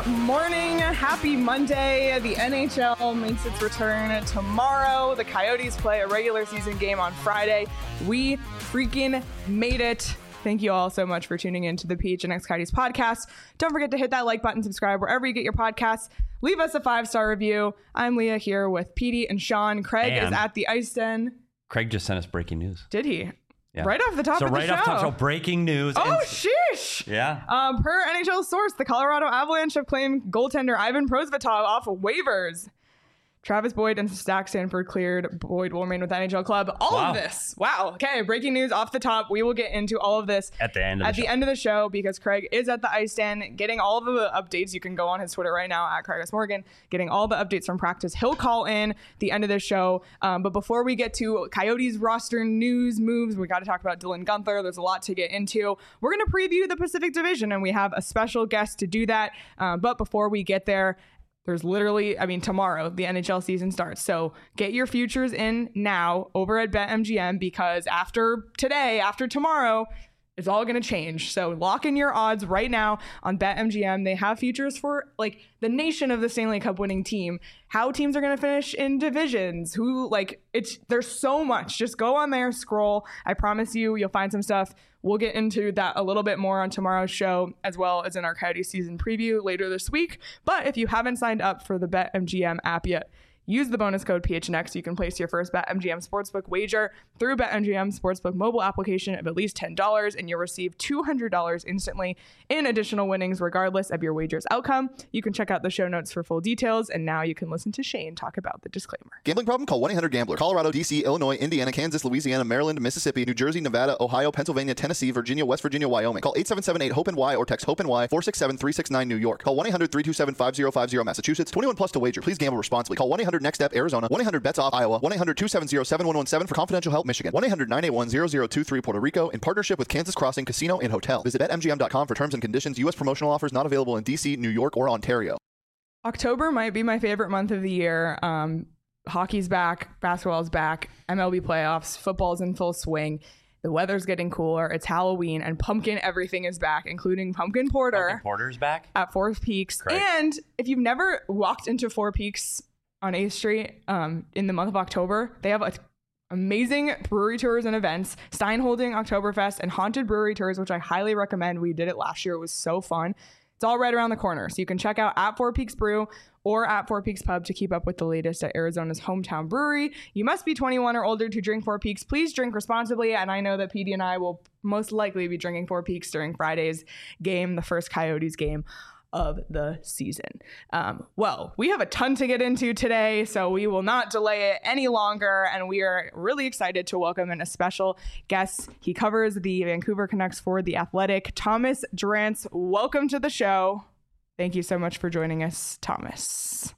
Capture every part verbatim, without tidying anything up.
morning. Happy Monday. The N H L makes its return tomorrow. The Coyotes play a regular season game on Friday. We freaking made it. Thank you all so much for tuning in to the P H N X Coyotes podcast. Don't forget to hit that like button, subscribe wherever you get your podcasts. Leave us a five-star review. I'm Leah here with Petey and Sean. Craig and is at the Ice Den. Craig just sent us breaking news. Did he? Yeah. Right off the top so of the right show. off the top, so breaking news. Oh, and, sheesh. Yeah. Um, per N H L source, the Colorado Avalanche have claimed goaltender Ivan Prosvetov off of waivers. Travis Boyd and Zach Sanford cleared. Boyd will remain with the N H L club. All wow. of this. Wow. Okay. Breaking news off the top. We will get into all of this at the end of at the, the show. end of the show because Craig is at the Ice Den getting all of the updates. You can go on his Twitter right now at Craig S. Morgan, getting all the updates from practice. He'll call in the end of the show. Um, but before we get to Coyotes roster news moves, we got to talk about Dylan Guenther. There's a lot to get into. We're going to preview the Pacific Division, and we have a special guest to do that. Um, but before we get there, there's literally, I mean, tomorrow, the N H L season starts. So get your futures in now over at BetMGM because after today, after tomorrow, it's all going to change. So lock in your odds right now on BetMGM. They have futures for like the nation of the Stanley Cup winning team, how teams are going to finish in divisions, who like it's there's so much. Just go on there, scroll. I promise you, you'll find some stuff. We'll get into that a little bit more on tomorrow's show, as well as in our Coyote season preview later this week. But if you haven't signed up for the BetMGM app yet, use the bonus code P H N X. You can place your first BetMGM Sportsbook wager through BetMGM Sportsbook mobile application of at least ten dollars, and you'll receive two hundred dollars instantly in additional winnings regardless of your wager's outcome. You can check out the show notes for full details, and now you can listen to Shane talk about the disclaimer. Gambling problem? Call one eight hundred gambler. Colorado, D C, Illinois, Indiana, Kansas, Louisiana, Maryland, Mississippi, New Jersey, Nevada, Ohio, Pennsylvania, Tennessee, Virginia, West Virginia, Wyoming. Call eight seven seven eight hope N Y or text HOPE-N Y four six seven three six nine New York. Call one eight hundred three two seven five zero five zero Massachusetts. twenty-one plus to wager. Please gamble responsibly. Call one eight hundred next step Arizona. one eight hundred bets off Iowa. one eight hundred two seven zero seven one one seven for confidential help Michigan. one eight hundred nine eight one zero zero two three Puerto Rico in partnership with Kansas Crossing Casino and Hotel. Visit Bet M G M dot com for terms and conditions. U S promotional offers not available in D C, New York, or Ontario. October might be my favorite month of the year. Um, hockey's back, basketball's back, M L B playoffs, football's in full swing. The weather's getting cooler. It's Halloween, and pumpkin everything is back, including pumpkin porter. Pumpkin porter's back at Four Peaks. Great. And if you've never walked into Four Peaks on eighth Street um, in the month of October, they have a amazing brewery tours and events, Stein holding Oktoberfest and haunted brewery tours, which I highly recommend. We did it last year. It was so fun. It's all right around the corner. So you can check out at Four Peaks Brew or at Four Peaks Pub to keep up with the latest at Arizona's hometown brewery. You must be twenty-one or older to drink Four Peaks. Please drink responsibly. And I know that P D and I will most likely be drinking Four Peaks during Friday's game, the first Coyotes game of the season. Um, well, we have a ton to get into today, so we will not delay it any longer, and we are really excited to welcome in a special guest. He covers the Vancouver Canucks for The Athletic, Thomas Drance. Welcome to the show. Thank you so much for joining us, Thomas.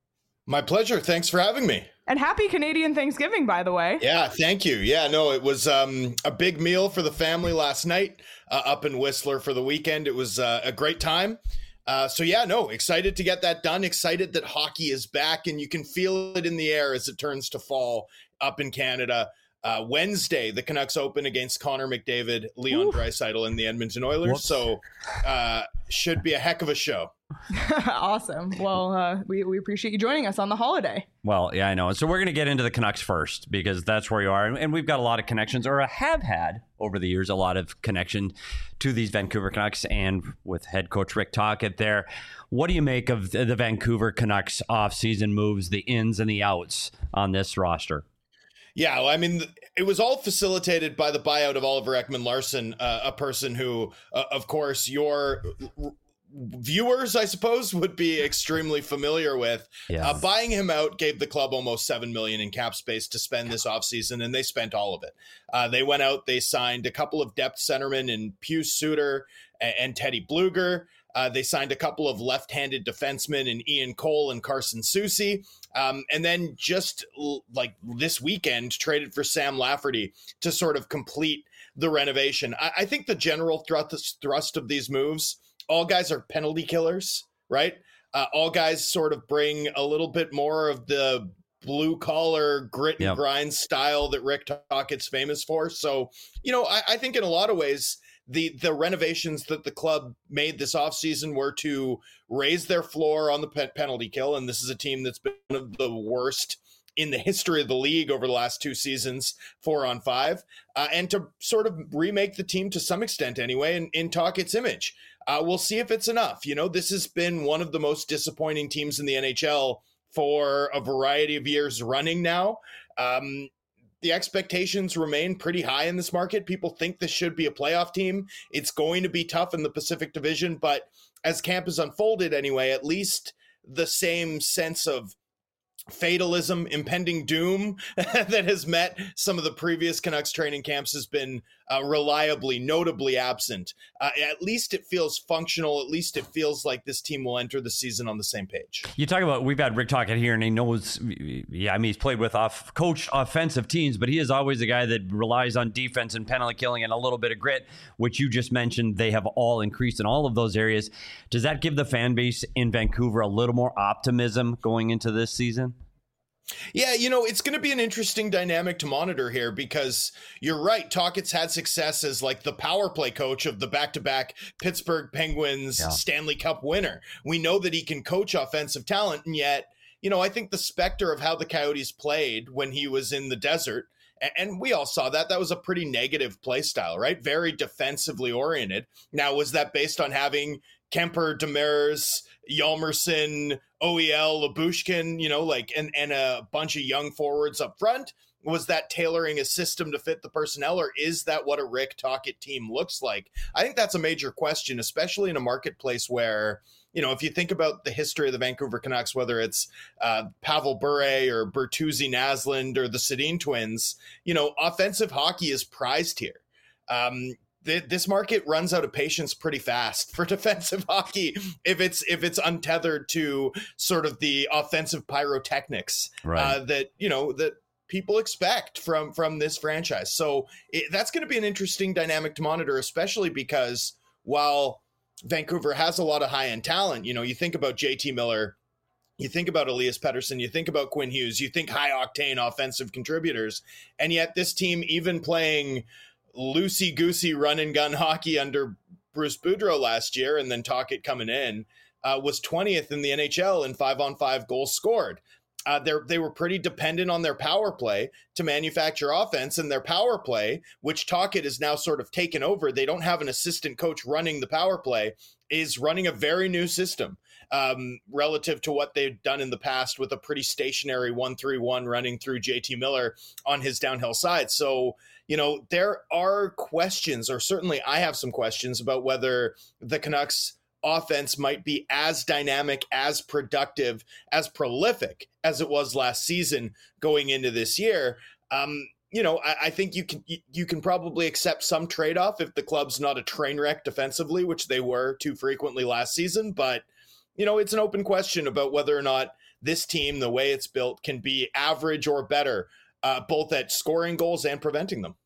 My pleasure. Thanks for having me. And happy Canadian Thanksgiving, by the way. Yeah, thank you. Yeah, no, it was um, a big meal for the family last night uh, up in Whistler for the weekend. It was uh, a great time. Uh, so yeah, no, excited to get that done. Excited that hockey is back, and you can feel it in the air as it turns to fall up in Canada. Uh, Wednesday, the Canucks open against Connor McDavid, Leon Draisaitl, and the Edmonton Oilers. Whoops. So uh, should be a heck of a show. Awesome. Well, uh, we, we appreciate you joining us on the holiday. Well, yeah, I know. So we're going to get into the Canucks first because that's where you are. And we've got a lot of connections, or have had over the years, a lot of connection to these Vancouver Canucks, and with head coach Rick Tocchet there. What do you make of the Vancouver Canucks offseason moves, the ins and the outs on this roster? Yeah, well, I mean, it was all facilitated by the buyout of Oliver Ekman-Larsson, uh, a person who, uh, of course, your viewers, I suppose, would be extremely familiar with. Yes. Uh, buying him out gave the club almost seven million dollars in cap space to spend this offseason, and they spent all of it. Uh, they went out, they signed a couple of depth centermen in Pius Suter and, and Teddy Bluger. Uh, they signed a couple of left-handed defensemen in Ian Cole and Carson Soucy. Um, and then just l- like this weekend, traded for Sam Lafferty to sort of complete the renovation. I, I think the general thrust, thrust of these moves, all guys are penalty killers, right? Uh, all guys sort of bring a little bit more of the blue-collar grit and yep. grind style that Rick Tocchet's famous for. So, you know, I, I think in a lot of ways, the the renovations that the club made this offseason were to raise their floor on the pe- penalty kill. And this is a team that's been one of the worst in the history of the league over the last two seasons, four on five, uh, and to sort of remake the team to some extent anyway, and, and talk its image. Uh, we'll see if it's enough. You know, this has been one of the most disappointing teams in the N H L for a variety of years running now. Um, the expectations remain pretty high in this market. People think this should be a playoff team. It's going to be tough in the Pacific Division, but as camp has unfolded anyway, at least the same sense of fatalism, impending doom that has met some of the previous Canucks training camps has been uh, reliably, notably absent. Uh, at least it feels functional. At least it feels like this team will enter the season on the same page. You talk about, we've had Rick Tocchet here, and he knows, yeah, I mean, he's played with off coached offensive teams, but he is always a guy that relies on defense and penalty killing and a little bit of grit, which you just mentioned. They have all increased in all of those areas. Does that give the fan base in Vancouver a little more optimism going into this season? Yeah, you know, it's going to be an interesting dynamic to monitor here because you're right. Tocchet's had success as like the power play coach of the back-to-back Pittsburgh Penguins yeah. Stanley Cup winner. We know that he can coach offensive talent, and yet, you know, I think the specter of how the Coyotes played when he was in the desert, and we all saw that, that was a pretty negative play style, right? Very defensively oriented. Now, was that based on having Kemper, Demers, Hjalmarsson, O E L, Labushkin, you know, like, and, and a bunch of young forwards up front? Was that tailoring a system to fit the personnel, or is that what a Rick Tocchet team looks like? I think that's a major question, especially in a marketplace where, you know, if you think about the history of the Vancouver Canucks, whether it's uh, Pavel Bure or Bertuzzi Naslund or the Sedin twins, you know, offensive hockey is prized here. Um, This market runs out of patience pretty fast for defensive hockey if it's if it's untethered to sort of the offensive pyrotechnics right. uh, that you know that people expect from from this franchise. So it, that's going to be an interesting dynamic to monitor, especially because while Vancouver has a lot of high end talent, you know, you think about J T Miller, you think about Elias Pettersson, you think about Quinn Hughes, you think high octane offensive contributors, and yet this team, even playing loosey-goosey run-and-gun hockey under Bruce Boudreau last year, and then Tocchet coming in, uh, was twentieth in the N H L in five-on-five goals scored. Uh, they were pretty dependent on their power play to manufacture offense, and their power play, which Tocchet has now sort of taken over, they don't have an assistant coach running the power play, is running a very new system um, relative to what they've done in the past with a pretty stationary one three one running through J T Miller on his downhill side. So, you know, there are questions, or certainly I have some questions about whether the Canucks offense might be as dynamic, as productive, as prolific as it was last season going into this year. Um, you know, I, I think you can you can probably accept some trade-off if the club's not a train wreck defensively, which they were too frequently last season. But, you know, it's an open question about whether or not this team, the way it's built, can be average or better, uh, both at scoring goals and preventing them.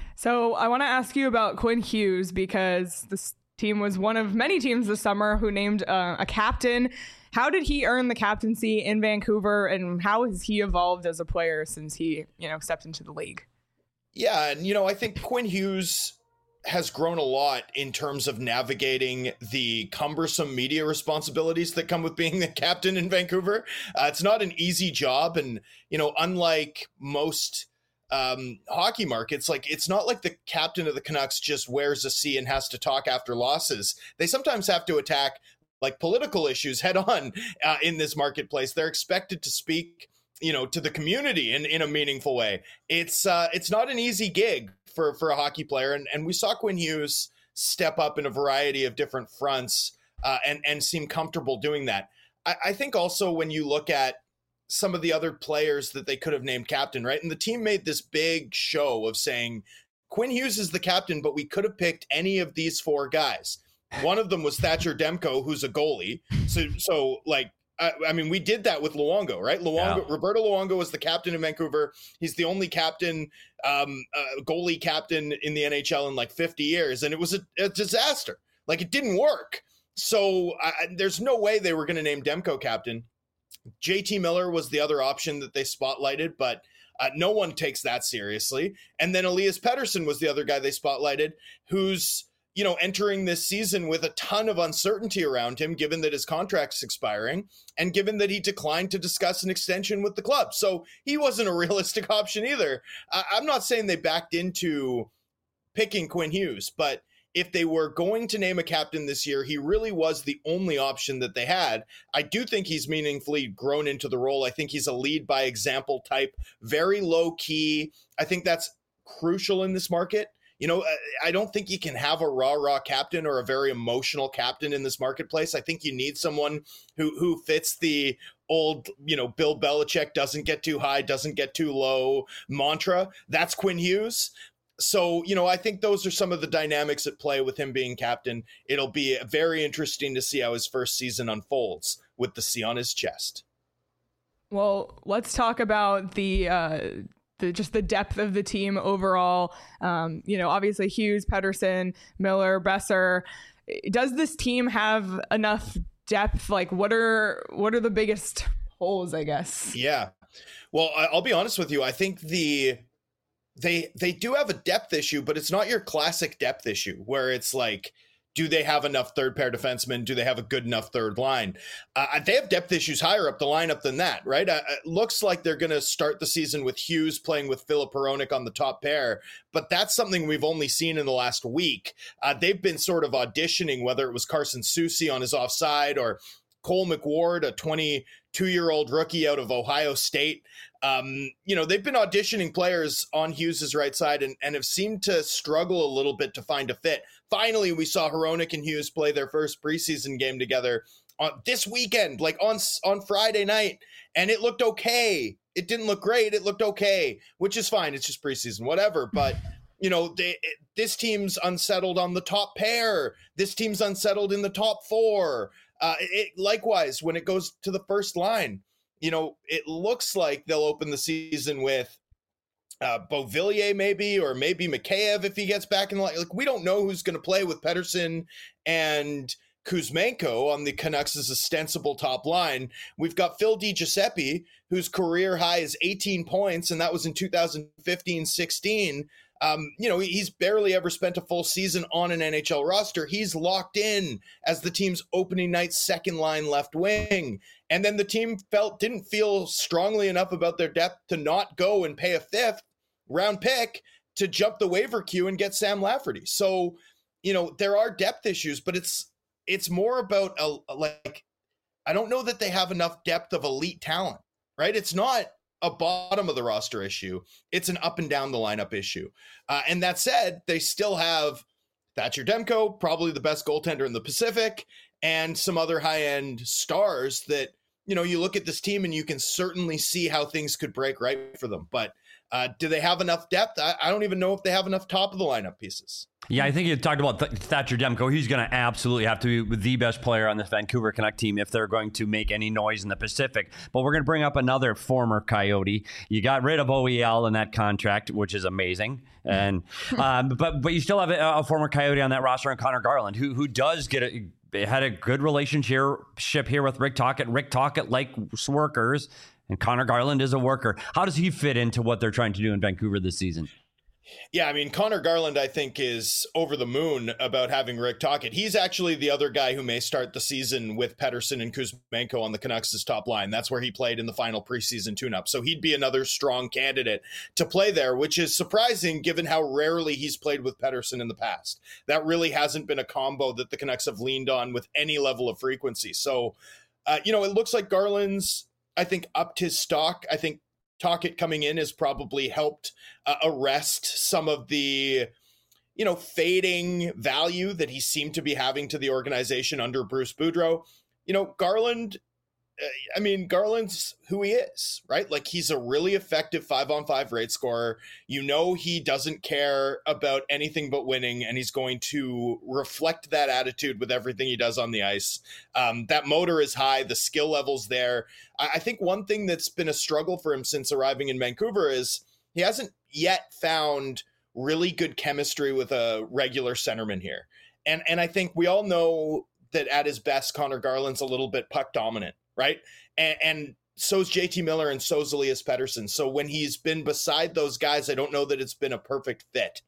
So I want to ask you about Quinn Hughes, because this team was one of many teams this summer who named uh, a captain. How did he earn the captaincy in Vancouver, and how has he evolved as a player since he, you know, stepped into the league? Yeah, and, you know, I think Quinn Hughes has grown a lot in terms of navigating the cumbersome media responsibilities that come with being the captain in Vancouver. Uh, it's not an easy job, and, you know, unlike most Um, hockey markets, like, it's not like the captain of the Canucks just wears a C and has to talk after losses. They sometimes have to attack like political issues head on uh, in this marketplace. They're expected to speak, you know, to the community in, in a meaningful way. It's uh, it's not an easy gig for, for a hockey player. And, and we saw Quinn Hughes step up in a variety of different fronts uh, and, and seem comfortable doing that. I, I think also when you look at some of the other players that they could have named captain, right? And the team made this big show of saying, Quinn Hughes is the captain, but we could have picked any of these four guys. One of them was Thatcher Demko, who's a goalie. So, so like, I, I mean, we did that with Luongo, right? Luongo, yeah. Roberto Luongo was the captain in Vancouver. He's the only captain, um, uh, goalie captain in the N H L in like fifty years. And it was a, a disaster. Like, it didn't work. So I, there's no way they were going to name Demko captain. J T Miller was the other option that they spotlighted, but uh, no one takes that seriously. And then Elias Pettersson was the other guy they spotlighted, who's, you know, entering this season with a ton of uncertainty around him, given that his contract's expiring and given that he declined to discuss an extension with the club. So he wasn't a realistic option either. I- I'm not saying they backed into picking Quinn Hughes, but if they were going to name a captain this year, he really was the only option that they had. I do think he's meaningfully grown into the role. I think he's a lead by example type, very low key. I think that's crucial in this market. You know, I don't think you can have a raw, raw captain or a very emotional captain in this marketplace. I think you need someone who who fits the old, you know, Bill Belichick doesn't get too high, doesn't get too low mantra. That's Quinn Hughes. So, you know, I think those are some of the dynamics at play with him being captain. It'll be very interesting to see how his first season unfolds with the C on his chest. Well, let's talk about the uh, the just the depth of the team overall. Um, you know, obviously Hughes, Pettersson, Miller, Besser. Does this team have enough depth? Like, what are what are the biggest holes, I guess? Yeah. Well, I'll be honest with you. I think the they they do have a depth issue, but it's not your classic depth issue where it's like, do they have enough third pair defensemen? Do they have a good enough third line? Uh, they have depth issues higher up the lineup than that, right? Uh, it looks like they're going to start the season with Hughes playing with Filip Hronek on the top pair, but that's something we've only seen in the last week. Uh, they've been sort of auditioning, whether it was Carson Soucy on his offside or Cole McWard, a twenty-two-year-old rookie out of Ohio State. Um, you know, they've been auditioning players on Hughes' right side and, and have seemed to struggle a little bit to find a fit. Finally, we saw Hronek and Hughes play their first preseason game together on this weekend, like on, on Friday night, and it looked okay. It didn't look great. It looked okay, which is fine. It's just preseason, whatever. But, you know, they, this team's unsettled on the top pair. This team's unsettled in the top four. Uh, it, likewise, when it goes to the first line, you know, it looks like they'll open the season with uh, Beauvillier maybe, or maybe Mikheyev if he gets back in the line. Like, we don't know who's going to play with Pettersson and Kuzmenko on the Canucks' ostensible top line. We've got Phil DiGiuseppe, whose career high is eighteen points, and that was in two thousand fifteen sixteen. Um, you know, he's barely ever spent a full season on an N H L roster. He's locked in as the team's opening night second line left wing. And then the team felt didn't feel strongly enough about their depth to not go and pay a fifth round pick to jump the waiver queue and get Sam Lafferty. So, you know, there are depth issues, but it's it's more about a, like, I don't know that they have enough depth of elite talent, right? It's not a bottom of the roster issue. It's an up and down the lineup issue. Uh, and that said, they still have Thatcher Demko, probably the best goaltender in the Pacific, and some other high-end stars that, you know, you look at this team and you can certainly see how things could break right for them. But uh, do they have enough depth? I, I don't even know if they have enough top of the lineup pieces. Yeah, I think you talked about Th- Thatcher Demko. He's going to absolutely have to be the best player on this Vancouver Canuck team if they're going to make any noise in the Pacific. But we're going to bring up another former Coyote. You got rid of O E L in that contract, which is amazing. And um, but but you still have a, a former Coyote on that roster, and Connor Garland, who who does get a had a good relationship here with Rick Tocchet. Rick Tocchet likes workers, and Connor Garland is a worker. How does he fit into what they're trying to do in Vancouver this season? Yeah, I mean, Connor Garland, I think, is over the moon about having Rick Tocchet. He's actually the other guy who may start the season with Pettersson and Kuzmenko on the Canucks' top line. That's where he played in the final preseason tune-up. So he'd be another strong candidate to play there, which is surprising given how rarely he's played with Pettersson in the past. That really hasn't been a combo that the Canucks have leaned on with any level of frequency. So, uh, you know, it looks like Garland's, I think, upped his stock. I think Tocchet coming in has probably helped uh, arrest some of the, you know, fading value that he seemed to be having to the organization under Bruce Boudreau. You know, Garland, uh, I mean, Garland's who he is, right? Like, he's a really effective five-on-five rate scorer. You know, he doesn't care about anything but winning, and he's going to reflect that attitude with everything he does on the ice. Um, that motor is high. The skill level's there. I, I think one thing that's been a struggle for him since arriving in Vancouver is he hasn't yet found really good chemistry with a regular centerman here. And, and I think we all know that at his best, Connor Garland's a little bit puck dominant, right? And, and so's J T Miller and so's Elias Pettersson. So when he's been beside those guys, I don't know that it's been a perfect fit.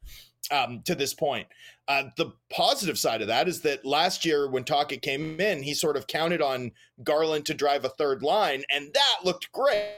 um, to this point. Uh, the positive side of that is that last year when Tocchet came in, he sort of counted on Garland to drive a third line, and that looked great.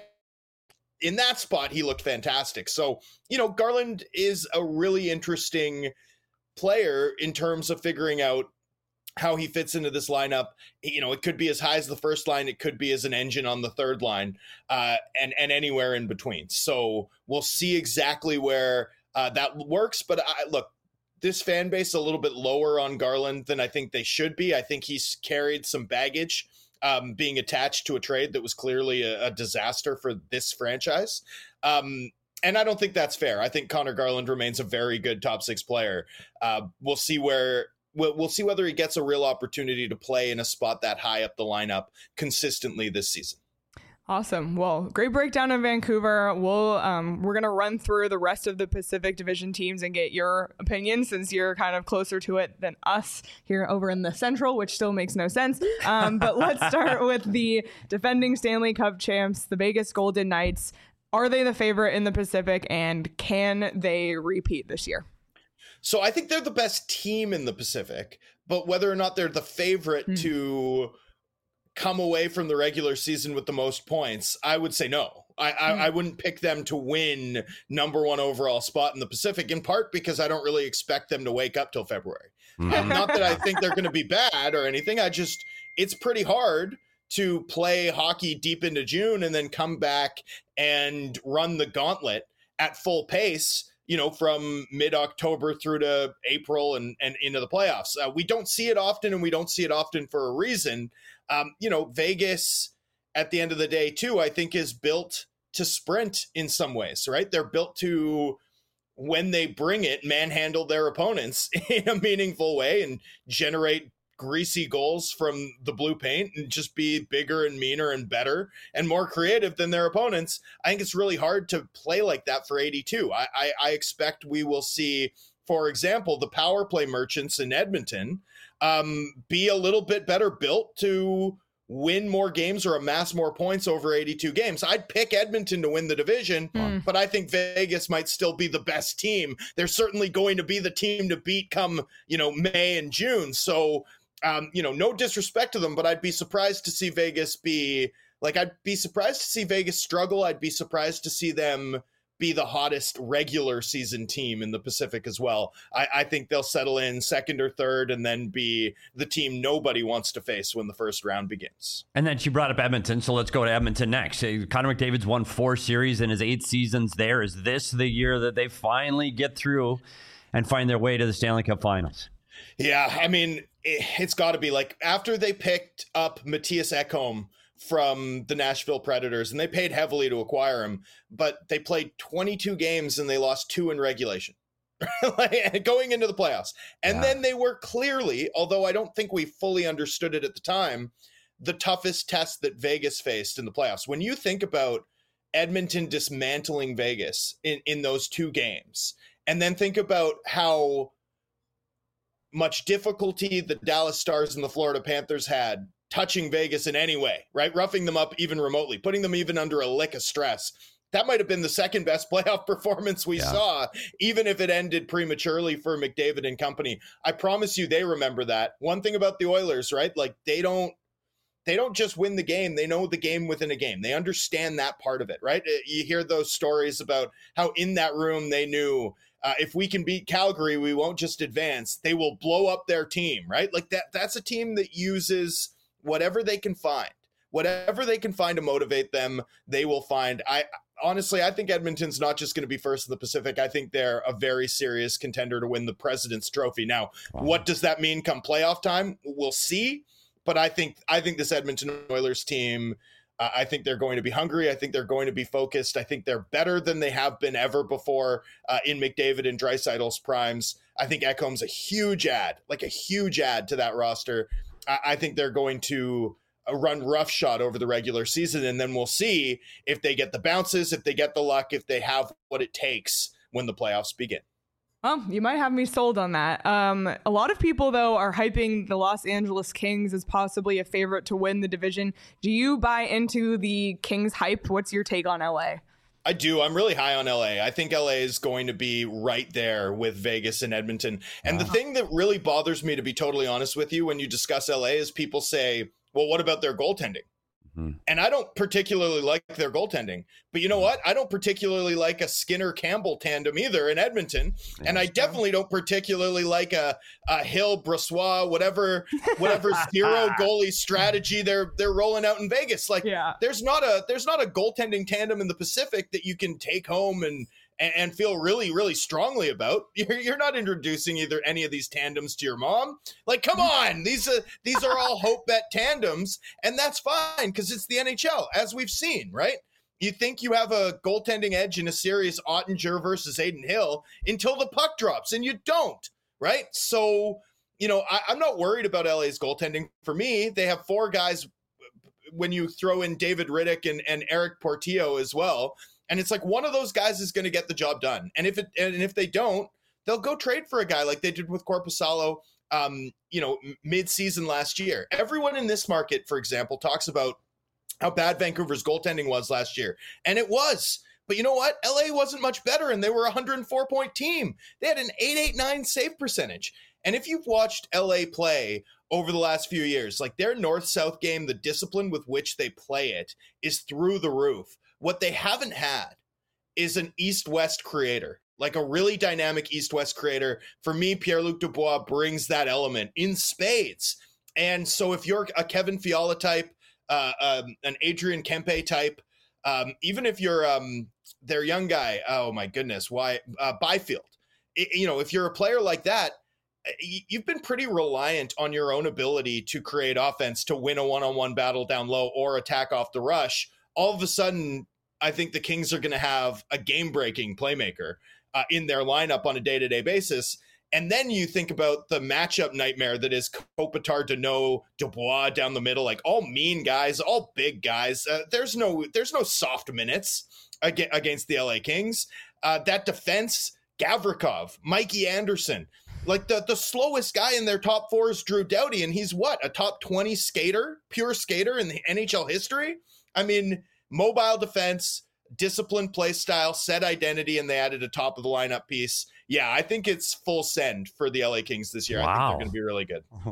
In that spot, he looked fantastic. So, you know, Garland is a really interesting player in terms of figuring out how he fits into this lineup. You know, it could be as high as the first line. It could be as an engine on the third line, uh, and, and anywhere in between. So we'll see exactly where uh, that works. But I, look, this fan base is a little bit lower on Garland than I think they should be. I think he's carried some baggage um, being attached to a trade that was clearly a, a disaster for this franchise. Um, and I don't think that's fair. I think Connor Garland remains a very good top six player. Uh, we'll see where we'll, we'll see whether he gets a real opportunity to play in a spot that high up the lineup consistently this season. Awesome. Well, great breakdown of Vancouver. We'll um, we're gonna run through the rest of the Pacific Division teams and get your opinion, since you're kind of closer to it than us here over in the Central, which still makes no sense. Um, but let's start with the defending Stanley Cup champs, the Vegas Golden Knights. Are they the favorite in the Pacific, and can they repeat this year? So I think they're the best team in the Pacific, but whether or not they're the favorite mm. to come away from the regular season with the most points, I would say no. I, I, mm. I wouldn't pick them to win number one overall spot in the Pacific, in part because I don't really expect them to wake up till February. Mm. Um, not that I think they're going to be bad or anything. I just, it's pretty hard to play hockey deep into June and then come back and run the gauntlet at full pace, you know, from mid-October through to April and, and into the playoffs. Uh, we don't see it often, and we don't see it often for a reason. Um, you know, Vegas, at the end of the day, too, I think is built to sprint in some ways, right? They're built to, when they bring it, manhandle their opponents in a meaningful way and generate greasy goals from the blue paint and just be bigger and meaner and better and more creative than their opponents. I think it's really hard to play like that for eighty-two. I, I, I expect we will see, for example, the power play merchants in Edmonton um, be a little bit better built to win more games or amass more points over eighty-two games. I'd pick Edmonton to win the division, mm. but I think Vegas might still be the best team. They're certainly going to be the team to beat come, you know, May and June. So, um, you know, no disrespect to them, but I'd be surprised to see Vegas be like, I'd be surprised to see Vegas struggle. I'd be surprised to see them be the hottest regular season team in the Pacific as well. I, I think they'll settle in second or third and then be the team nobody wants to face when the first round begins. And then she brought up Edmonton, so let's go to Edmonton next. Connor McDavid's won four series in his eight seasons there. Is this the year that they finally get through and find their way to the Stanley Cup Finals? Yeah, I mean, it, it's got to be like after they picked up Matthias Ekholm from the Nashville Predators, and they paid heavily to acquire him, but they played twenty-two games and they lost two in regulation like, going into the playoffs. And yeah. then they were clearly, although I don't think we fully understood it at the time, the toughest test that Vegas faced in the playoffs. When you think about Edmonton dismantling Vegas in, in those two games, and then think about how much difficulty the Dallas Stars and the Florida Panthers had touching Vegas in any way, right? Roughing them up even remotely, putting them even under a lick of stress. That might have been the second best playoff performance we yeah. saw, even if it ended prematurely for McDavid and company. I promise you they remember that. One thing about the Oilers, right? Like they don't, they don't just win the game. They know the game within a game. They understand that part of it, right? You hear those stories about how in that room they knew uh, if we can beat Calgary, we won't just advance. They will blow up their team, right? Like that. That's a team that uses whatever they can find, whatever they can find to motivate them, they will find. I honestly, I think Edmonton's not just going to be first in the Pacific. I think they're a very serious contender to win the President's Trophy. Now, wow. what does that mean come playoff time? We'll see. But I think I think this Edmonton Oilers team, uh, I think they're going to be hungry. I think they're going to be focused. I think they're better than they have been ever before uh, in McDavid and Draisaitl's primes. I think Ekholm's a huge add, like a huge add to that roster. I think they're going to run roughshod over the regular season, and then we'll see if they get the bounces, if they get the luck, if they have what it takes when the playoffs begin. Well, you might have me sold on that. Um, a lot of people, though, are hyping the Los Angeles Kings as possibly a favorite to win the division. Do you buy into the Kings hype? What's your take on L A? I do. I'm really high on L A. I think L A is going to be right there with Vegas and Edmonton. And wow. the thing that really bothers me, to be totally honest with you, when you discuss L A is people say, well, what about their goaltending? Mm-hmm. And I don't particularly like their goaltending. But you know what? I don't particularly like a Skinner-Campbell tandem either in Edmonton. Yeah, and I definitely don't particularly like a, a Hill-Brossoit, whatever whatever zero goalie strategy they're they're rolling out in Vegas. Like yeah. there's not a there's not a goaltending tandem in the Pacific that you can take home and and feel really, really strongly about. You're, you're not introducing either any of these tandems to your mom. Like, come on, these are these are all hope bet tandems, and that's fine because it's the N H L, as we've seen, right? You think you have a goaltending edge in a series, Ottinger versus Aiden Hill, until the puck drops, and you don't, right? So, you know, I, I'm not worried about L A's goaltending. For me, they have four guys when you throw in David Riddick and, and Eric Portillo as well. And it's like one of those guys is going to get the job done. And if it and if they don't, they'll go trade for a guy like they did with Korpisalo, um, you know, mid-season last year. Everyone in this market, for example, talks about how bad Vancouver's goaltending was last year. And it was. But you know what? L A wasn't much better, and they were a one hundred four point team. They had an eight eighty-nine save percentage. And if you've watched L A play over the last few years, like their north-south game, the discipline with which they play it is through the roof. What they haven't had is an east-west creator, like a really dynamic east-west creator. For me, Pierre-Luc Dubois brings that element in spades. And so if you're a Kevin Fiala type, uh, um, an Adrian Kempe type, um, even if you're um, their young guy, oh my goodness, why uh, Byfield, it, you know, if you're a player like that, you've been pretty reliant on your own ability to create offense, to win a one-on-one battle down low or attack off the rush. All of a sudden, I think the Kings are going to have a game-breaking playmaker uh, in their lineup on a day-to-day basis. And then you think about the matchup nightmare that is Kopitar, Danault, Dubois down the middle, like all mean guys, all big guys. Uh, there's no there's no soft minutes ag- against the L A Kings. Uh, that defense, Gavrikov, Mikey Anderson. Like the, the slowest guy in their top four is Drew Doughty, and he's what, a top twenty skater, pure skater in the N H L history? I mean, mobile defense, disciplined play style, set identity, and they added a top of the lineup piece. Yeah, I think it's full send for the L A Kings this year. Wow. I think they're going to be really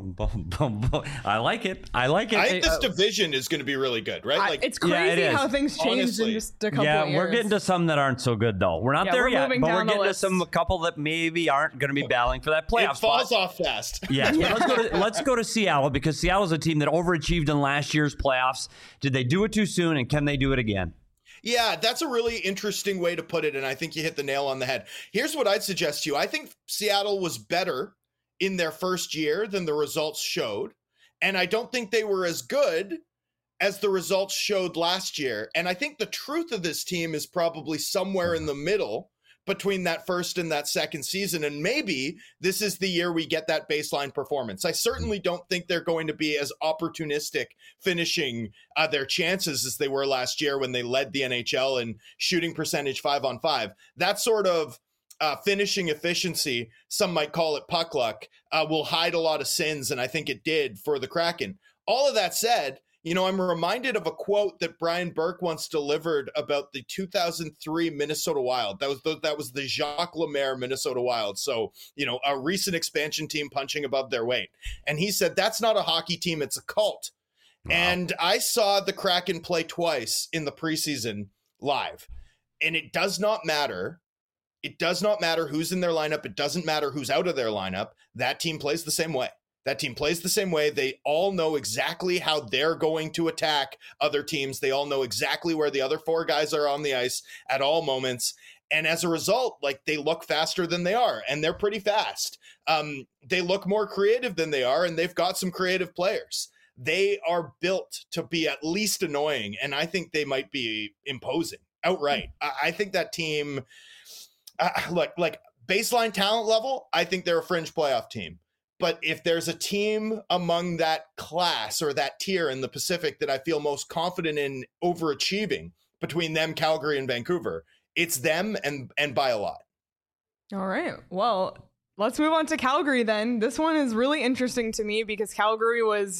good. I like it. I like it. I think this uh, division is going to be really good, right? Like, it's crazy yeah, it how things changed Honestly. in just a couple yeah, of years. Yeah, we're getting to some that aren't so good, though. We're not yeah, there we're yet, but we're getting list. to some a couple that maybe aren't going to be battling for that playoff It falls spot. off fast. Yes, yeah. let's, go to, let's go to Seattle, because Seattle's a team that overachieved in last year's playoffs. Did they do it too soon, and can they do it again? Yeah, that's a really interesting way to put it, and I think you hit the nail on the head. Here's what I'd suggest to you. I think Seattle was better in their first year than the results showed, and I don't think they were as good as the results showed last year. And I think the truth of this team is probably somewhere in the middle between that first and that second season. And maybe this is the year we get that baseline performance. I certainly don't think they're going to be as opportunistic finishing uh, their chances as they were last year when they led the N H L in shooting percentage five on five. That sort of uh, finishing efficiency, some might call it puck luck, uh, will hide a lot of sins. And I think it did for the Kraken. All of that said, you know, I'm reminded of a quote that Brian Burke once delivered about the two thousand three Minnesota Wild. That was the, that was the Jacques Lemaire Minnesota Wild. So, you know, a recent expansion team punching above their weight. And he said, that's not a hockey team, it's a cult. Wow. And I saw the Kraken play twice in the preseason live. And it does not matter. It does not matter who's in their lineup. It doesn't matter who's out of their lineup. That team plays the same way. That team plays the same way. They all know exactly how they're going to attack other teams. They all know exactly where the other four guys are on the ice at all moments. And as a result, like, they look faster than they are, and they're pretty fast. Um, they look more creative than they are, and they've got some creative players. They are built to be at least annoying, and I think they might be imposing outright. I, I think that team, uh, look, like baseline talent level, I think they're a fringe playoff team. But if there's a team among that class or that tier in the Pacific that I feel most confident in overachieving between them, Calgary, and Vancouver, it's them, and and by a lot. All right. Well, let's move on to Calgary then. This one is really interesting to me because Calgary was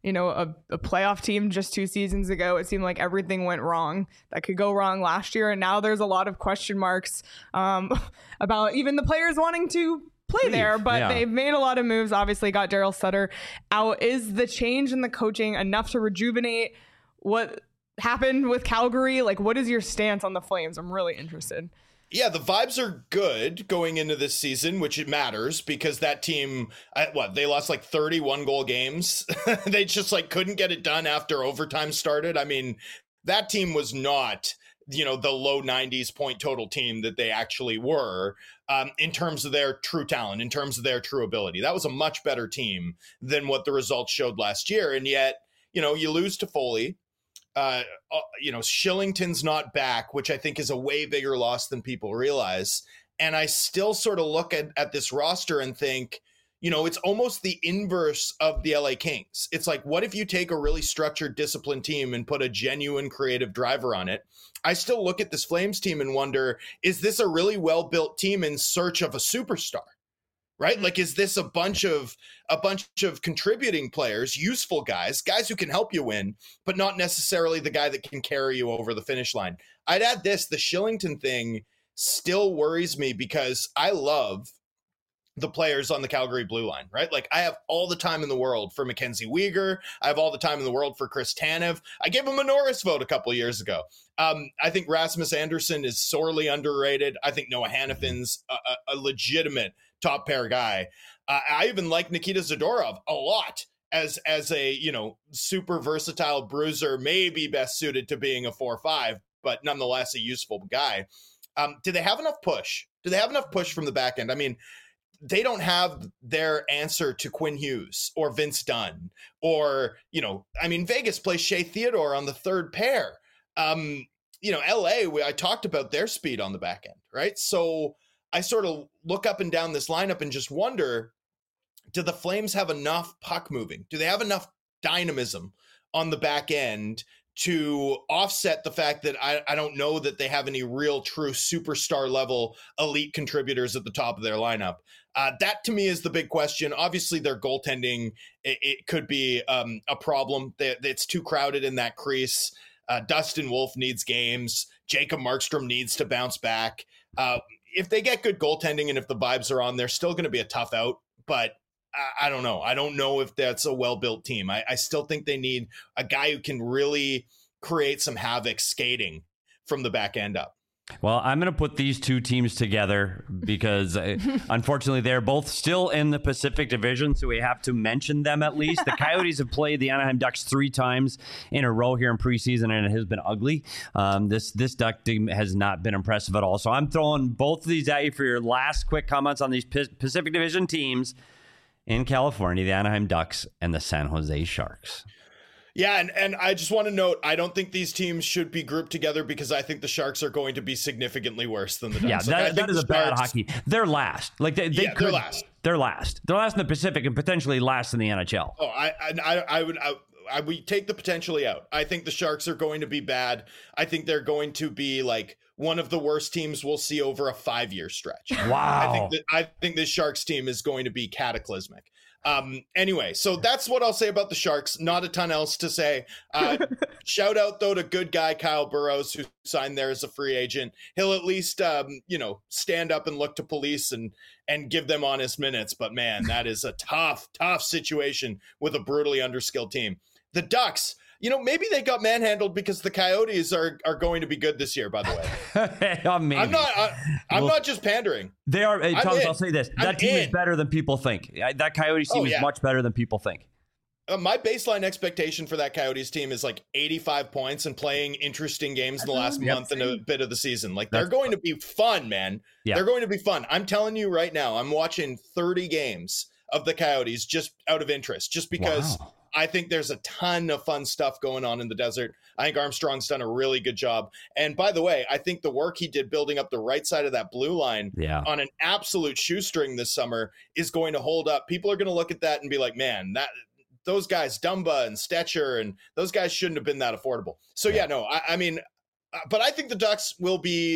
you know, a, a playoff team just two seasons ago. It seemed like everything went wrong that could go wrong last year. And now there's a lot of question marks um, about even the players wanting to play there, but yeah. they've made a lot of moves. Obviously got Daryl Sutter out. Is the change in the coaching enough to rejuvenate what happened with Calgary? Like, what is your stance on the Flames? I'm really interested. Yeah, the vibes are good going into this season, which it matters because that team, what, they lost like thirty-one goal games. They just like couldn't get it done after overtime started. I mean, that team was not, you know, the low nineties point total team that they actually were um, in terms of their true talent, in terms of their true ability. That was a much better team than what the results showed last year. And yet, you know, you lose to Foley. Uh, uh, you know, Shillington's not back, which I think is a way bigger loss than people realize. And I still sort of look at, at this roster and think, you know, it's almost the inverse of the L A Kings. It's like, what if you take a really structured, disciplined team and put a genuine creative driver on it? I still look at this Flames team and wonder, is this a really well-built team in search of a superstar? Right? Like, is this a bunch of a bunch of contributing players, useful guys, guys who can help you win, but not necessarily the guy that can carry you over the finish line? I'd add this, the Shillington thing still worries me because I love the players on the Calgary blue line, right? Like, I have all the time in the world for Mackenzie Weegar. I have all the time in the world for Chris Tanev. I gave him a Norris vote a couple of years ago. Um, I think Rasmus Anderson is sorely underrated. I think Noah Hannafin's a, a, a legitimate top pair guy. Uh, I even like Nikita Zadorov a lot as as a, you know, super versatile bruiser, maybe best suited to being a four five, but nonetheless a useful guy. Um, do they have enough push? Do they have enough push from the back end? I mean, they don't have their answer to Quinn Hughes or Vince Dunn or, you know, I mean, Vegas plays Shea Theodore on the third pair. Um, you know, L A, we, I talked about their speed on the back end, right? So I sort of look up and down this lineup and just wonder, do the Flames have enough puck moving? Do they have enough dynamism on the back end to offset the fact that I, I don't know that they have any real true superstar level elite contributors at the top of their lineup? Uh, that to me is the big question. Obviously their goaltending, it, it could be um, a problem. They, it's too crowded in that crease. Uh, Dustin Wolf needs games. Jacob Markstrom needs to bounce back. Uh, if they get good goaltending and if the vibes are on, they're still going to be a tough out, but I, I don't know. I don't know if that's a well-built team. I, I still think they need a guy who can really create some havoc skating from the back end up. Well, I'm going to put these two teams together because uh, unfortunately they're both still in the Pacific Division, so we have to mention them at least. The Coyotes have played the Anaheim Ducks three times in a row here in preseason, and it has been ugly. Um, this this Duck team has not been impressive at all. So I'm throwing both of these at you for your last quick comments on these P- Pacific Division teams in California, the Anaheim Ducks and the San Jose Sharks. Yeah, and, and I just want to note, I don't think these teams should be grouped together because I think the Sharks are going to be significally worse than the Ducks. Yeah, like, that, that is a Sharks, bad hockey. They're last. Like they, they yeah, could, they're last. They're last. They're last in the Pacific and potentially last in the N H L. Oh, I I, I would I, I would take the potentially out. I think the Sharks are going to be bad. I think they're going to be like one of the worst teams we'll see over a five-year stretch. Wow. I think that I think this Sharks team is going to be cataclysmic. Um, anyway, so that's what I'll say about the Sharks. Not a ton else to say. Uh, shout out, though, to good guy Kyle Burrows, who signed there as a free agent. He'll at least, um, you know, stand up and look to police and and give them honest minutes. But, man, that is a tough, tough situation with a brutally underskilled team. The Ducks, you know, maybe they got manhandled because the Coyotes are are going to be good this year, by the way. oh, I'm not I, I'm well, not just pandering. They are. Hey, Thomas, in. I'll say this. That I'm team in. is better than people think. That Coyotes team oh, yeah. is much better than people think. Uh, my baseline expectation for that Coyotes team is like eighty-five points and playing interesting games in the last yep. month and a bit of the season. Like, they're That's going fun. to be fun, man. Yeah. They're going to be fun. I'm telling you right now, I'm watching thirty games of the Coyotes just out of interest, just because wow. I think there's a ton of fun stuff going on in the desert. I think Armstrong's done a really good job. And by the way, I think the work he did building up the right side of that blue line yeah. on an absolute shoestring this summer is going to hold up. People are going to look at that and be like, man, that those guys, Dumba and Stetcher, and those guys shouldn't have been that affordable. So yeah, yeah no, I, I mean, but I think the Ducks will be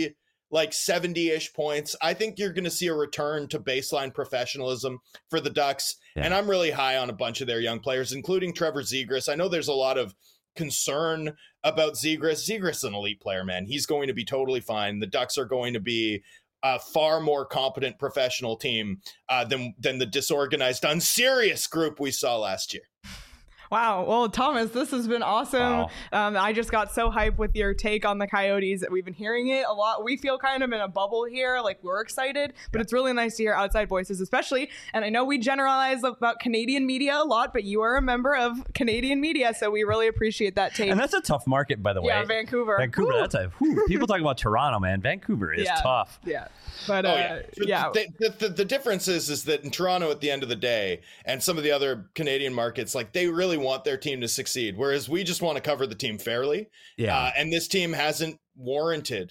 like seventy-ish points. I think you're going to see a return to baseline professionalism for the Ducks. Yeah. And I'm really high on a bunch of their young players, including Trevor Zegras. I know there's a lot of concern about Zegras. Zegras is an elite player, man. He's going to be totally fine. The Ducks are going to be a far more competent professional team uh, than, than the disorganized, unserious group we saw last year. Wow. Well, Thomas, this has been awesome. Wow. Um, I just got so hyped with your take on the Coyotes. We've been hearing it a lot. We feel kind of in a bubble here. Like, we're excited, but yeah. It's really nice to hear outside voices, especially. And I know we generalize about Canadian media a lot, but you are a member of Canadian media, so we really appreciate that take. And that's a tough market, by the way. Yeah, Vancouver. Vancouver, woo. That's a whew. People talk about Toronto, man. Vancouver is yeah. tough. Yeah. But uh, oh, yeah, yeah. The, the, the difference is, is that in Toronto, at the end of the day, and some of the other Canadian markets, like, they really want their team to succeed, whereas we just want to cover the team fairly. Yeah. Uh, and this team hasn't warranted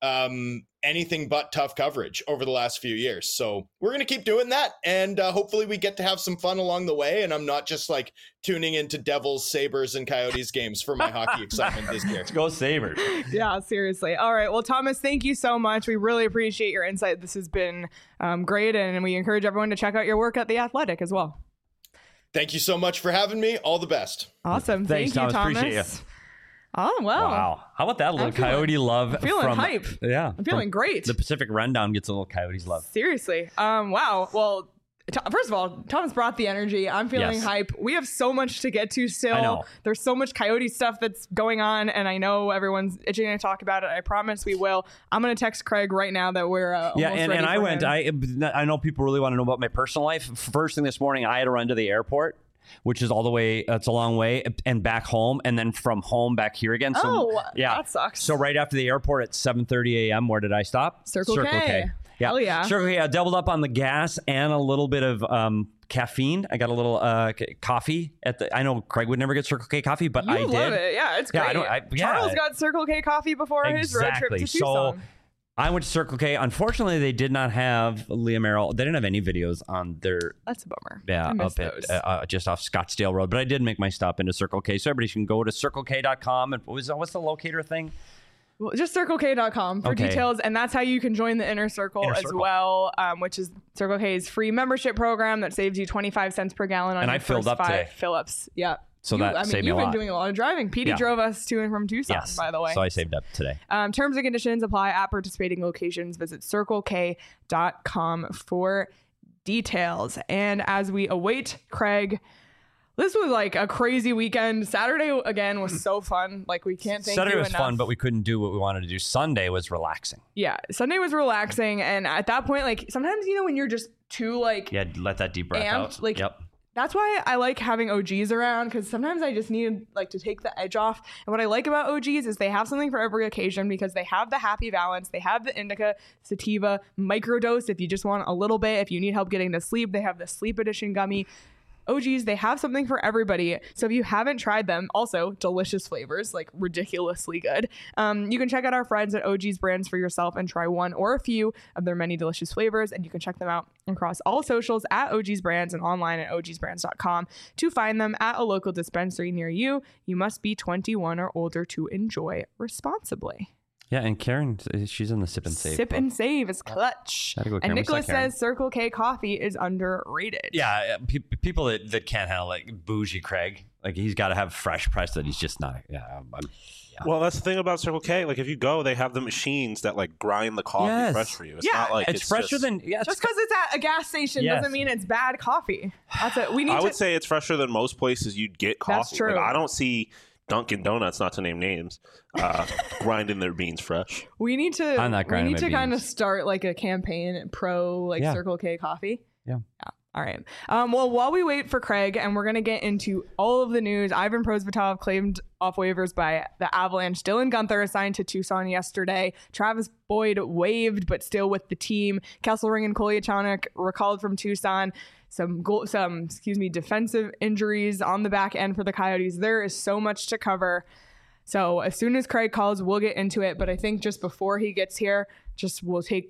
um, anything but tough coverage over the last few years. So we're going to keep doing that. And uh, hopefully we get to have some fun along the way. And I'm not just like tuning into Devils, Sabres, and Coyotes games for my hockey excitement this year. Let's go Sabres. Yeah, seriously. All right. Well, Thomas, thank you so much. We really appreciate your insight. This has been um, great. And we encourage everyone to check out your work at The Athletic as well. Thank you so much for having me. All the best. Awesome. Thanks, Thank you, Thomas. Thomas. Appreciate you. Oh, wow. Wow. How about that little feeling, Coyote love? I'm feeling from, hype. Yeah. I'm feeling great. The Pacific Rundown gets a little Coyotes love. Seriously. Um. Wow. Well, t- first of all, Thomas brought the energy. I'm feeling yes. hype. We have so much to get to still. I know. There's so much Coyote stuff that's going on, and I know everyone's itching to talk about it. I promise we will. I'm going to text Craig right now that we're uh, yeah, almost and, ready and for I went. him. I I know people really want to know about my personal life. First thing this morning, I had to run to the airport, which is all the way, it's a long way, and back home, and then from home back here again. So, oh, yeah. that sucks. So right after the airport at seven thirty a.m., where did I stop? Circle, Circle K. K. Yeah. Hell yeah. Circle K. I doubled up on the gas and a little bit of um, caffeine. I got a little uh, coffee at the, I know Craig would never get Circle K coffee, but you I did. love it. Yeah, it's yeah, great. I don't, I, yeah. Charles got Circle K coffee before exactly. his road trip to Tucson. So, I went to Circle K. Unfortunately, they did not have Leah Merrill. They didn't have any videos on their. That's a bummer. Yeah, I miss up those. at uh, just off Scottsdale Road. But I did make my stop into Circle K, so everybody can go to circle k dot com. And what was what's the locator thing? Well, just circle k dot com for okay. details, and that's how you can join the Inner Circle Inner as Circle. well, um, which is Circle K's free membership program that saves you twenty-five cents per gallon on and your I filled first up five today. fill-ups. Yeah. So you, that I mean, saved me a you've been lot. doing a lot of driving. Petey Yeah. drove us to and from Tucson, yes. by the way. So I saved up today. Um, terms and conditions apply at participating locations. Visit circle k dot com for details. And as we await Craig, this was like a crazy weekend. Saturday, again, was so fun. Like, we can't thank Saturday you was enough. fun, but we couldn't do what we wanted to do. Sunday was relaxing. Yeah, Sunday was relaxing. And at that point, like, sometimes, you know, when you're just too, like... Yeah, let that deep breath amped, out. Like, yep. That's why I like having O Gs around, because sometimes I just need like to take the edge off. And what I like about O Gs is they have something for every occasion, because they have the Happy Balance, they have the Indica Sativa microdose if you just want a little bit. If you need help getting to sleep, they have the Sleep Edition gummy. O Gs, they have something for everybody. So if you haven't tried them, also delicious flavors, like ridiculously good. Um, you can check out our friends at O Gs Brands for yourself and try one or a few of their many delicious flavors. And you can check them out across all socials at O Gs Brands and online at o gs brands dot com to find them at a local dispensary near you. You must be twenty-one or older to enjoy responsibly. Yeah, and Karen, she's in the Sip and Save. Sip club. and Save is clutch. Gotta go, Karen. And We Nicholas suck, Karen. says Circle K coffee is underrated. Yeah, pe- people that, that can't handle like bougie Craig, like he's got to have fresh press that he's just not. Yeah, I'm, I'm, yeah. Well, that's the thing about Circle K. Like, if you go, they have the machines that like grind the coffee Yes. fresh for you. It's Yeah. not like it's, it's, fresher just, than yeah. Just because it's at a gas station Yes. doesn't mean it's bad coffee. That's it. We need I to. would say it's fresher than most places you'd get coffee. That's true. Like, I don't see Dunkin' Donuts, not to name names, uh, grinding their beans fresh. We need to. I'm not we grinding need my to kind of beans. start like a campaign pro like Yeah. Circle K coffee. Yeah. Yeah. All right. Um, well, while we wait for Craig, and we're gonna get into all of the news. Ivan Prosvetov claimed off waivers by the Avalanche. Dylan Guenther assigned to Tucson yesterday. Travis Boyd waived, but still with the team. Kesselring and Kolyachonok recalled from Tucson. Some goal, some excuse me, defensive injuries on the back end for the Coyotes. There is so much to cover. So as soon as Craig calls, we'll get into it. But I think just before he gets here, just we'll take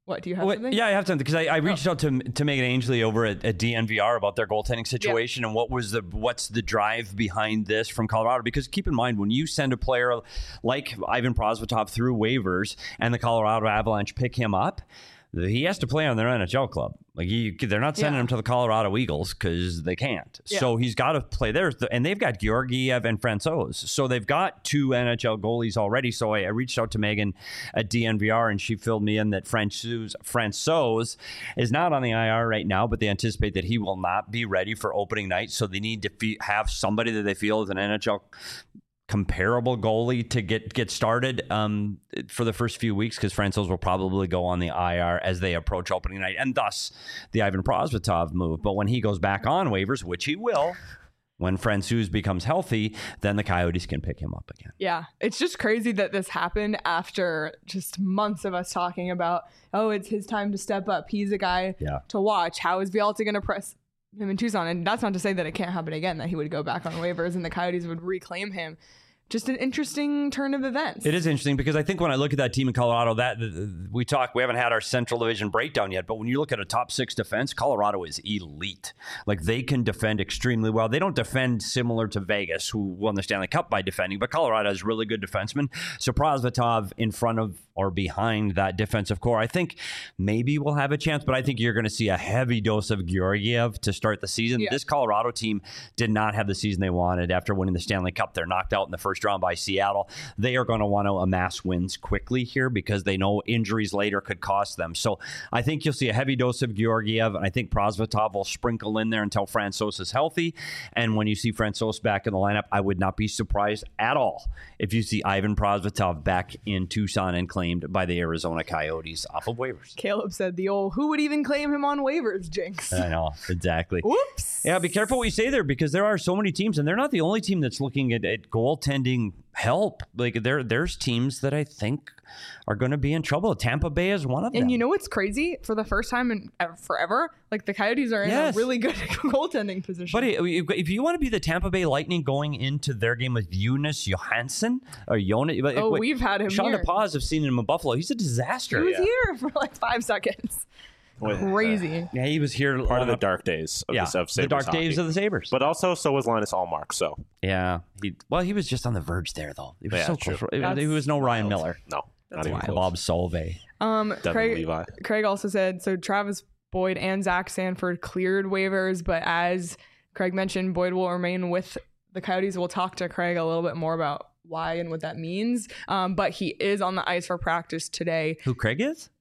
What, do you have Well, something? yeah, I have something because I, I reached Oh. out to to Megan Ainsley over at, at D N V R about their goaltending situation and what was the what's the drive behind this from Colorado. Because keep in mind, when you send a player like Ivan Prosvetov through waivers and the Colorado Avalanche pick him up, he has to play on their N H L club. Like he, they're not sending Yeah. him to the Colorado Eagles because they can't. Yeah. So he's got to play there. And they've got Georgiev and Francouz. So they've got two N H L goalies already. So I, I reached out to Megan at D N V R and she filled me in that Francouz, Francouz is not on the I R right now, but they anticipate that he will not be ready for opening night. So they need to fe- have somebody that they feel is an N H L comparable goalie to get get started um, for the first few weeks because Francouz will probably go on the I R as they approach opening night, and thus the Ivan Prosvetov move. But when he goes back on waivers, which he will, when Francouz becomes healthy, then the Coyotes can pick him up again. Yeah, it's just crazy that this happened after just months of us talking about, oh, it's his time to step up. He's a guy Yeah. to watch. How is Villalta going to press him in Tucson? And that's not to say that it can't happen again, that he would go back on waivers and the Coyotes would reclaim him. Just an interesting turn of events. It is interesting because I think when I look at that team in Colorado, that we talk, we haven't had our Central Division breakdown yet, but when you look at a top six defense, Colorado is elite. Like they can defend extremely well. They don't defend similar to Vegas, who won the Stanley Cup by defending, but Colorado has really good defensemen. So Prosvetov in front of or behind that defensive core, I think maybe we'll have a chance, but I think you're going to see a heavy dose of Georgiev to start the season. Yeah. This Colorado team did not have the season they wanted after winning the Stanley Cup. They're knocked out in the first round by Seattle. They are going to want to amass wins quickly here because they know injuries later could cost them. So I think you'll see a heavy dose of Georgiev, and I think Prosvetov will sprinkle in there until Francouz is healthy. And when you see Francouz back in the lineup, I would not be surprised at all if you see Ivan Prosvetov back in Tucson and claimed by the Arizona Coyotes off of waivers. Caleb said the old, who would even claim him on waivers, jinx. I know, exactly. Whoops. Yeah, be careful what you say there because there are so many teams, and they're not the only team that's looking at, at goaltending help. Like there, there's teams that I think are going to be in trouble. Tampa Bay is one of them. And you know what's crazy? For the first time in ever, forever, like the Coyotes are in Yes. a really good goaltending position. But if you want to be the Tampa Bay Lightning going into their game with Jonas Johansson or Jonas, Oh, we've had him Sean here. DePaz have seen him in Buffalo. He's a disaster. he was yeah. here for like five seconds. With, Crazy. Yeah, he was here. part of the uh, dark days of, yeah, the, of the Sabres dark hockey. days of the Sabres. But also, so was Linus Allmark. So yeah, he well, he was just on the verge there though. He was Yeah, so true. close. It- That's He was no Ryan wild. Miller, no, That's not even wild. close. Bob Solvay. Um, Devin Craig, Levi. Craig also said, so Travis Boyd and Zach Sanford cleared waivers, but as Craig mentioned, Boyd will remain with the Coyotes. We'll talk to Craig a little bit more about why and what that means. Um, but he is on the ice for practice today. Who Craig is?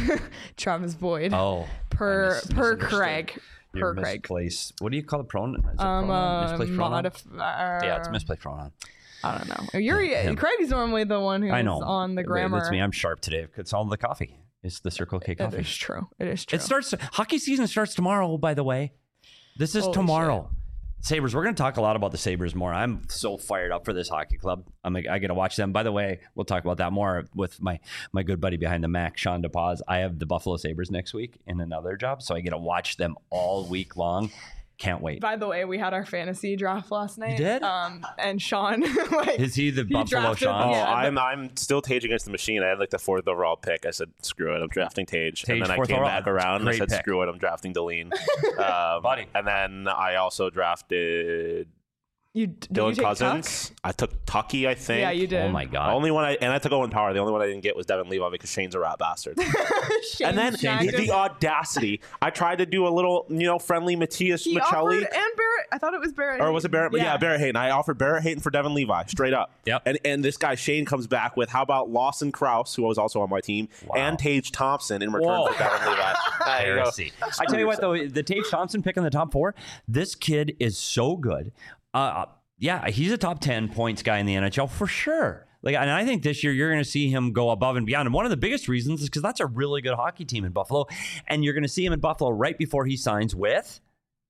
Travis Boyd. Oh, per I mis- per misunderstood. Craig. Your Per Craig. misplaced. What do you call it? Pronoun? Is it Um, pronoun? uh, Misplaced pronoun? modif- uh, Yeah, it's misplaced pronoun. I don't know. You're Him. Craig's normally the one who's I know. on the grammar. That's me. I'm sharp today. It's all the coffee. It's the Circle K It coffee. is true. It is true. It starts. Hockey season starts tomorrow. By the way, this is Holy tomorrow. Sabres. We're going to talk a lot about the Sabres more. I'm so fired up for this hockey club. I'm. I get to watch them. By the way, we'll talk about that more with my my good buddy behind the Mac, Sean DePaz. I have the Buffalo Sabres next week in another job, so I get to watch them all week long. Can't wait. By the way, we had our fantasy draft last night. did? Um, and Sean, like, Is he the Buffalo drafted- Sean? Oh, Yeah, I'm I'm still Tage against the machine. I had like the fourth overall pick. I said, screw it, I'm drafting Tage. Tage, and then I fourth came overall. back around and I Great said, pick. screw it, I'm drafting Deline. um, Buddy. And then I also drafted you did Dylan you take Cousins. I took Tucky, I Tuck? think. Yeah, you did. Oh my The god. only one I and I took Owen Power. The only one I didn't get was Devin Levi because Shane's a rat bastard. Shane and then snagged the him. audacity. I tried to do a little, you know, friendly Matthias He Michelli. offered and Barrett. I thought it was Barrett. Or was it Barrett? Yeah. yeah, Barrett Hayton. I offered Barrett Hayton for Devin Levi, straight up. Yep. And and this guy Shane comes back with, how about Lawson Krause, who was also on my team, Wow. and Tage Thompson in return Whoa. for Devin Levi. There you go. Heresy. I tell you what, though, the Tage Thompson pick in the top four, this kid is so good. Uh, yeah, he's a top ten points guy in the N H L for sure. Like, and I think this year you're going to see him go above and beyond. And one of the biggest reasons is because that's a really good hockey team in Buffalo, and you're going to see him in Buffalo right before he signs with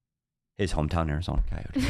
his hometown Arizona Coyotes.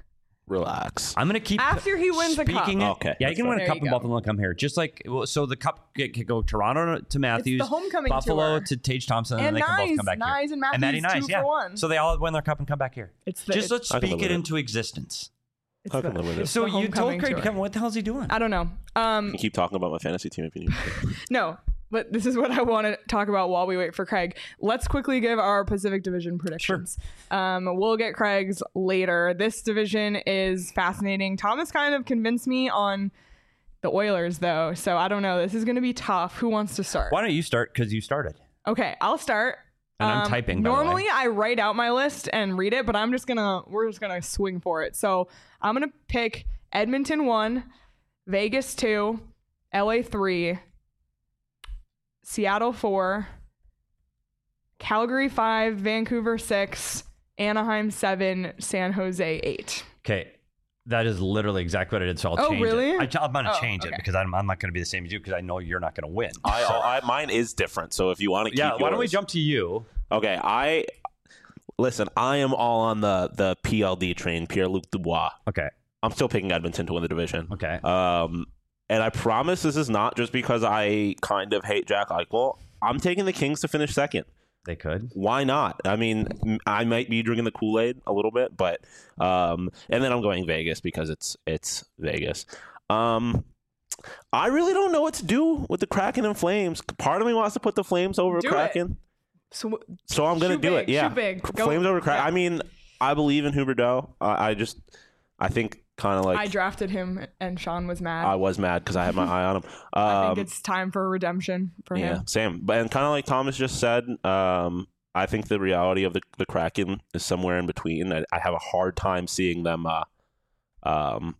Relax. I'm going to keep After he wins a cup. speaking it- Okay, Yeah, you that's can win fine. a cup There in you go. Buffalo and come here. Just like well, so, the cup could could go Toronto to Matthews, homecoming Buffalo tour. to Tage Thompson, and, And then they can both Nyes- come back Nyes here. and Matthews, Matty Nyes, two yeah. for one. So they all win their cup and come back here. It's the, Just it's, let's I can speak live it with it. into existence. it's I can the- live with it. it's So the you told homecoming Craig to tour. come. What the hell is he doing? I don't know. Um, You keep talking about my fantasy team if you need. no. but this is what I want to talk about while we wait for Craig. Let's quickly give our Pacific Division predictions. Sure. Um, we'll get Craig's later. This division is fascinating. Thomas kind of convinced me on the Oilers, though, so I don't know. This is going to be tough. Who wants to start? Why don't you start? Because you started. Okay, I'll start. And I'm um, typing. By normally, the way. I write out my list and read it, but I'm just gonna we're just gonna swing for it. So I'm gonna pick Edmonton one, Vegas two, L A three, Seattle four, Calgary five, Vancouver six, Anaheim seven, San Jose eight. Okay. That is literally exactly what I did, so I'll Oh, change really? it. I, I'm going to Oh, change okay. it because I'm, I'm not going to be the same as you because I know you're not going to win. I, I mine is different. So if you want to keep yeah, why don't we yours- jump to you? Okay, I listen. I am all on the the P L D train, Pierre-Luc Dubois. Okay. I'm still picking Edmonton to win the division. Okay. Um, and I promise this is not just because I kind of hate Jack Eichel. I'm taking the Kings to finish second. They could. Why not? I mean, m- I might be drinking the Kool-Aid a little bit, but um, and then I'm going Vegas because it's it's Vegas. Um, I really don't know what to do with the Kraken and Flames. Part of me wants to put the Flames over Do Kraken, So so I'm going to Shoot do big, it. Yeah, shoot big. Go- Flames over Kraken. yeah. I mean, I believe in Huberdeau. I, I just, I think kind of like I drafted him, and Sean was mad. I was mad because I had my eye on him. Um, I think it's time for redemption for yeah, him. same. But and kind of like Thomas just said, um, I think the reality of the, the Kraken is somewhere in between. I, I have a hard time seeing them. Uh, um,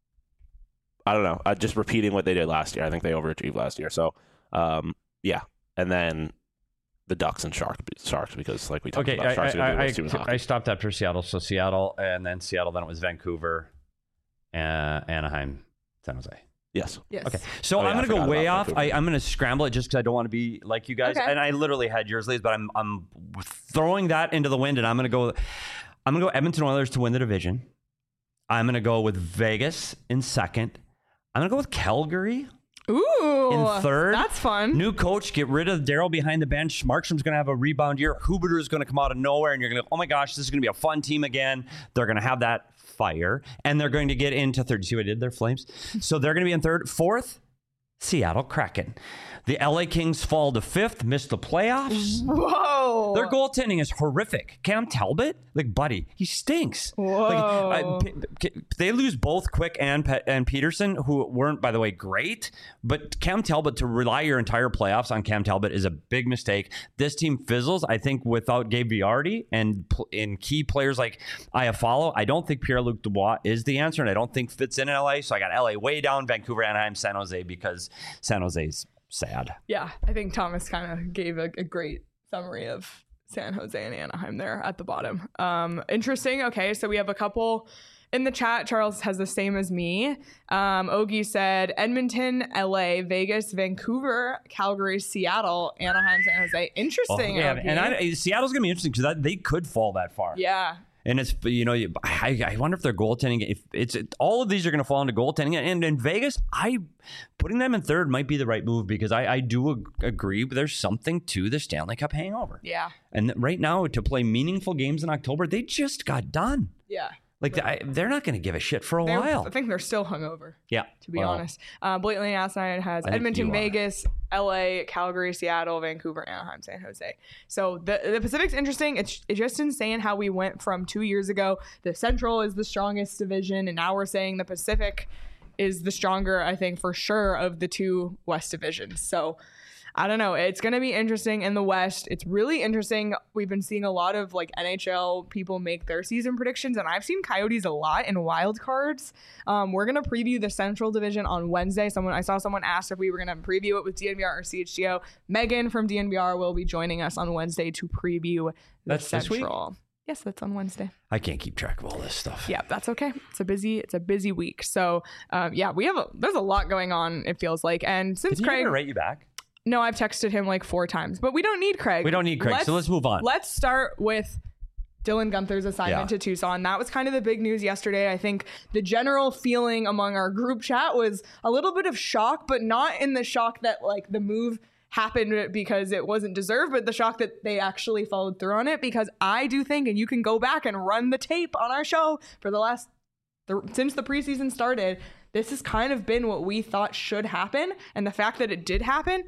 I don't know. Uh, just repeating what they did last year. I think they overachieved last year. So, um, yeah. And then the Ducks and Sharks, Sharks because like we talked Okay, about, I, Sharks are I, going to I, do the most I, I stopped after Seattle. So Seattle, and then Seattle, then it was Vancouver, uh, Anaheim, San Jose. Yes. Yes. Okay, so Oh, yeah, I'm I going to go forgot way about off. Vancouver. I, I'm going to scramble it just because I don't want to be like you guys. Okay. And I literally had yours, Liz, but I'm I'm throwing that into the wind, and I'm going to go. I'm going to go Edmonton Oilers to win the division. I'm going to go with Vegas in second. I'm going to go with Calgary Ooh, in third. That's fun. New coach, get rid of Daryl behind the bench. Markstrom's going to have a rebound year. Huberdeau is going to come out of nowhere, and you're going to go, oh my gosh, this is going to be a fun team again. They're going to have that fire, and they're going to get into third. You see what I did there, Flames? So they're going to be in third. Fourth, Seattle Kraken. The L A Kings fall to fifth, miss the playoffs. Whoa. Their goaltending is horrific. Cam Talbot, like, buddy, he stinks. Whoa. Like, I- P- P- they lose both Quick and Pe- and Peterson, who weren't, by the way, great. But Cam Talbot, to rely your entire playoffs on Cam Talbot is a big mistake. This team fizzles, I think, without Gabe Viardi and pl- in key players like Iafallo. I don't think Pierre-Luc Dubois is the answer, and I don't think fits in L A. So I got L A way down, Vancouver, Anaheim, San Jose, because San Jose's sad. Yeah, I think Thomas kind of gave a, a great summary of San Jose and Anaheim there at the bottom. Um, interesting. Okay, so we have a couple in the chat. Charles has the same as me. Um, Ogie said Edmonton, L A, Vegas, Vancouver, Calgary, Seattle, Anaheim, San Jose. Interesting. Oh, yeah, Ogie. and I, Seattle's gonna be interesting because they could fall that far. yeah. And it's, you know, I, I wonder if their goaltending, if it's it, all of these are going to fall into goaltending. And in Vegas, I putting them in third might be the right move because I, I do ag- agree. But there's something to the Stanley Cup hangover. Yeah. And right now, to play meaningful games in October, they just got done. Yeah. Like I, they're not going to give a shit for a They're- while. I think they're still hungover. Yeah, To be well, honest, uh, Blatantly Asinine has I think Edmonton, you are. Vegas, L A, Calgary, Seattle, Vancouver, Anaheim, San Jose. So the the Pacific's interesting. It's, it's just insane how we went from two years ago. The Central is the strongest division, and now we're saying the Pacific is the stronger, I think, for sure, of the two West divisions. So I don't know. It's going to be interesting in the West. It's really interesting. We've been seeing a lot of like N H L people make their season predictions, and I've seen Coyotes a lot in wild cards. Um, we're going to preview the Central Division on Wednesday. Someone I saw someone asked if we were going to preview it with D N V R or C H G O. Megan from D N V R will be joining us on Wednesday to preview the That's this week? Central. Yes, that's on Wednesday. I can't keep track of all this stuff. Yeah, that's okay. It's a busy, it's a busy week. So, um, yeah, we have a, there's a lot going on. It feels like, and since Did he Craig, ever write you back? no, I've texted him like four times, but we don't need Craig. We don't need Craig, so let's move on. Let's start with Dylan Gunther's assignment Yeah. to Tucson. That was kind of the big news yesterday. I think the general feeling among our group chat was a little bit of shock, but not in the shock that like the move happened because it wasn't deserved, but the shock that they actually followed through on it. Because I do think, and you can go back and run the tape on our show for the last, the, since the preseason started, this has kind of been what we thought should happen. And the fact that it did happen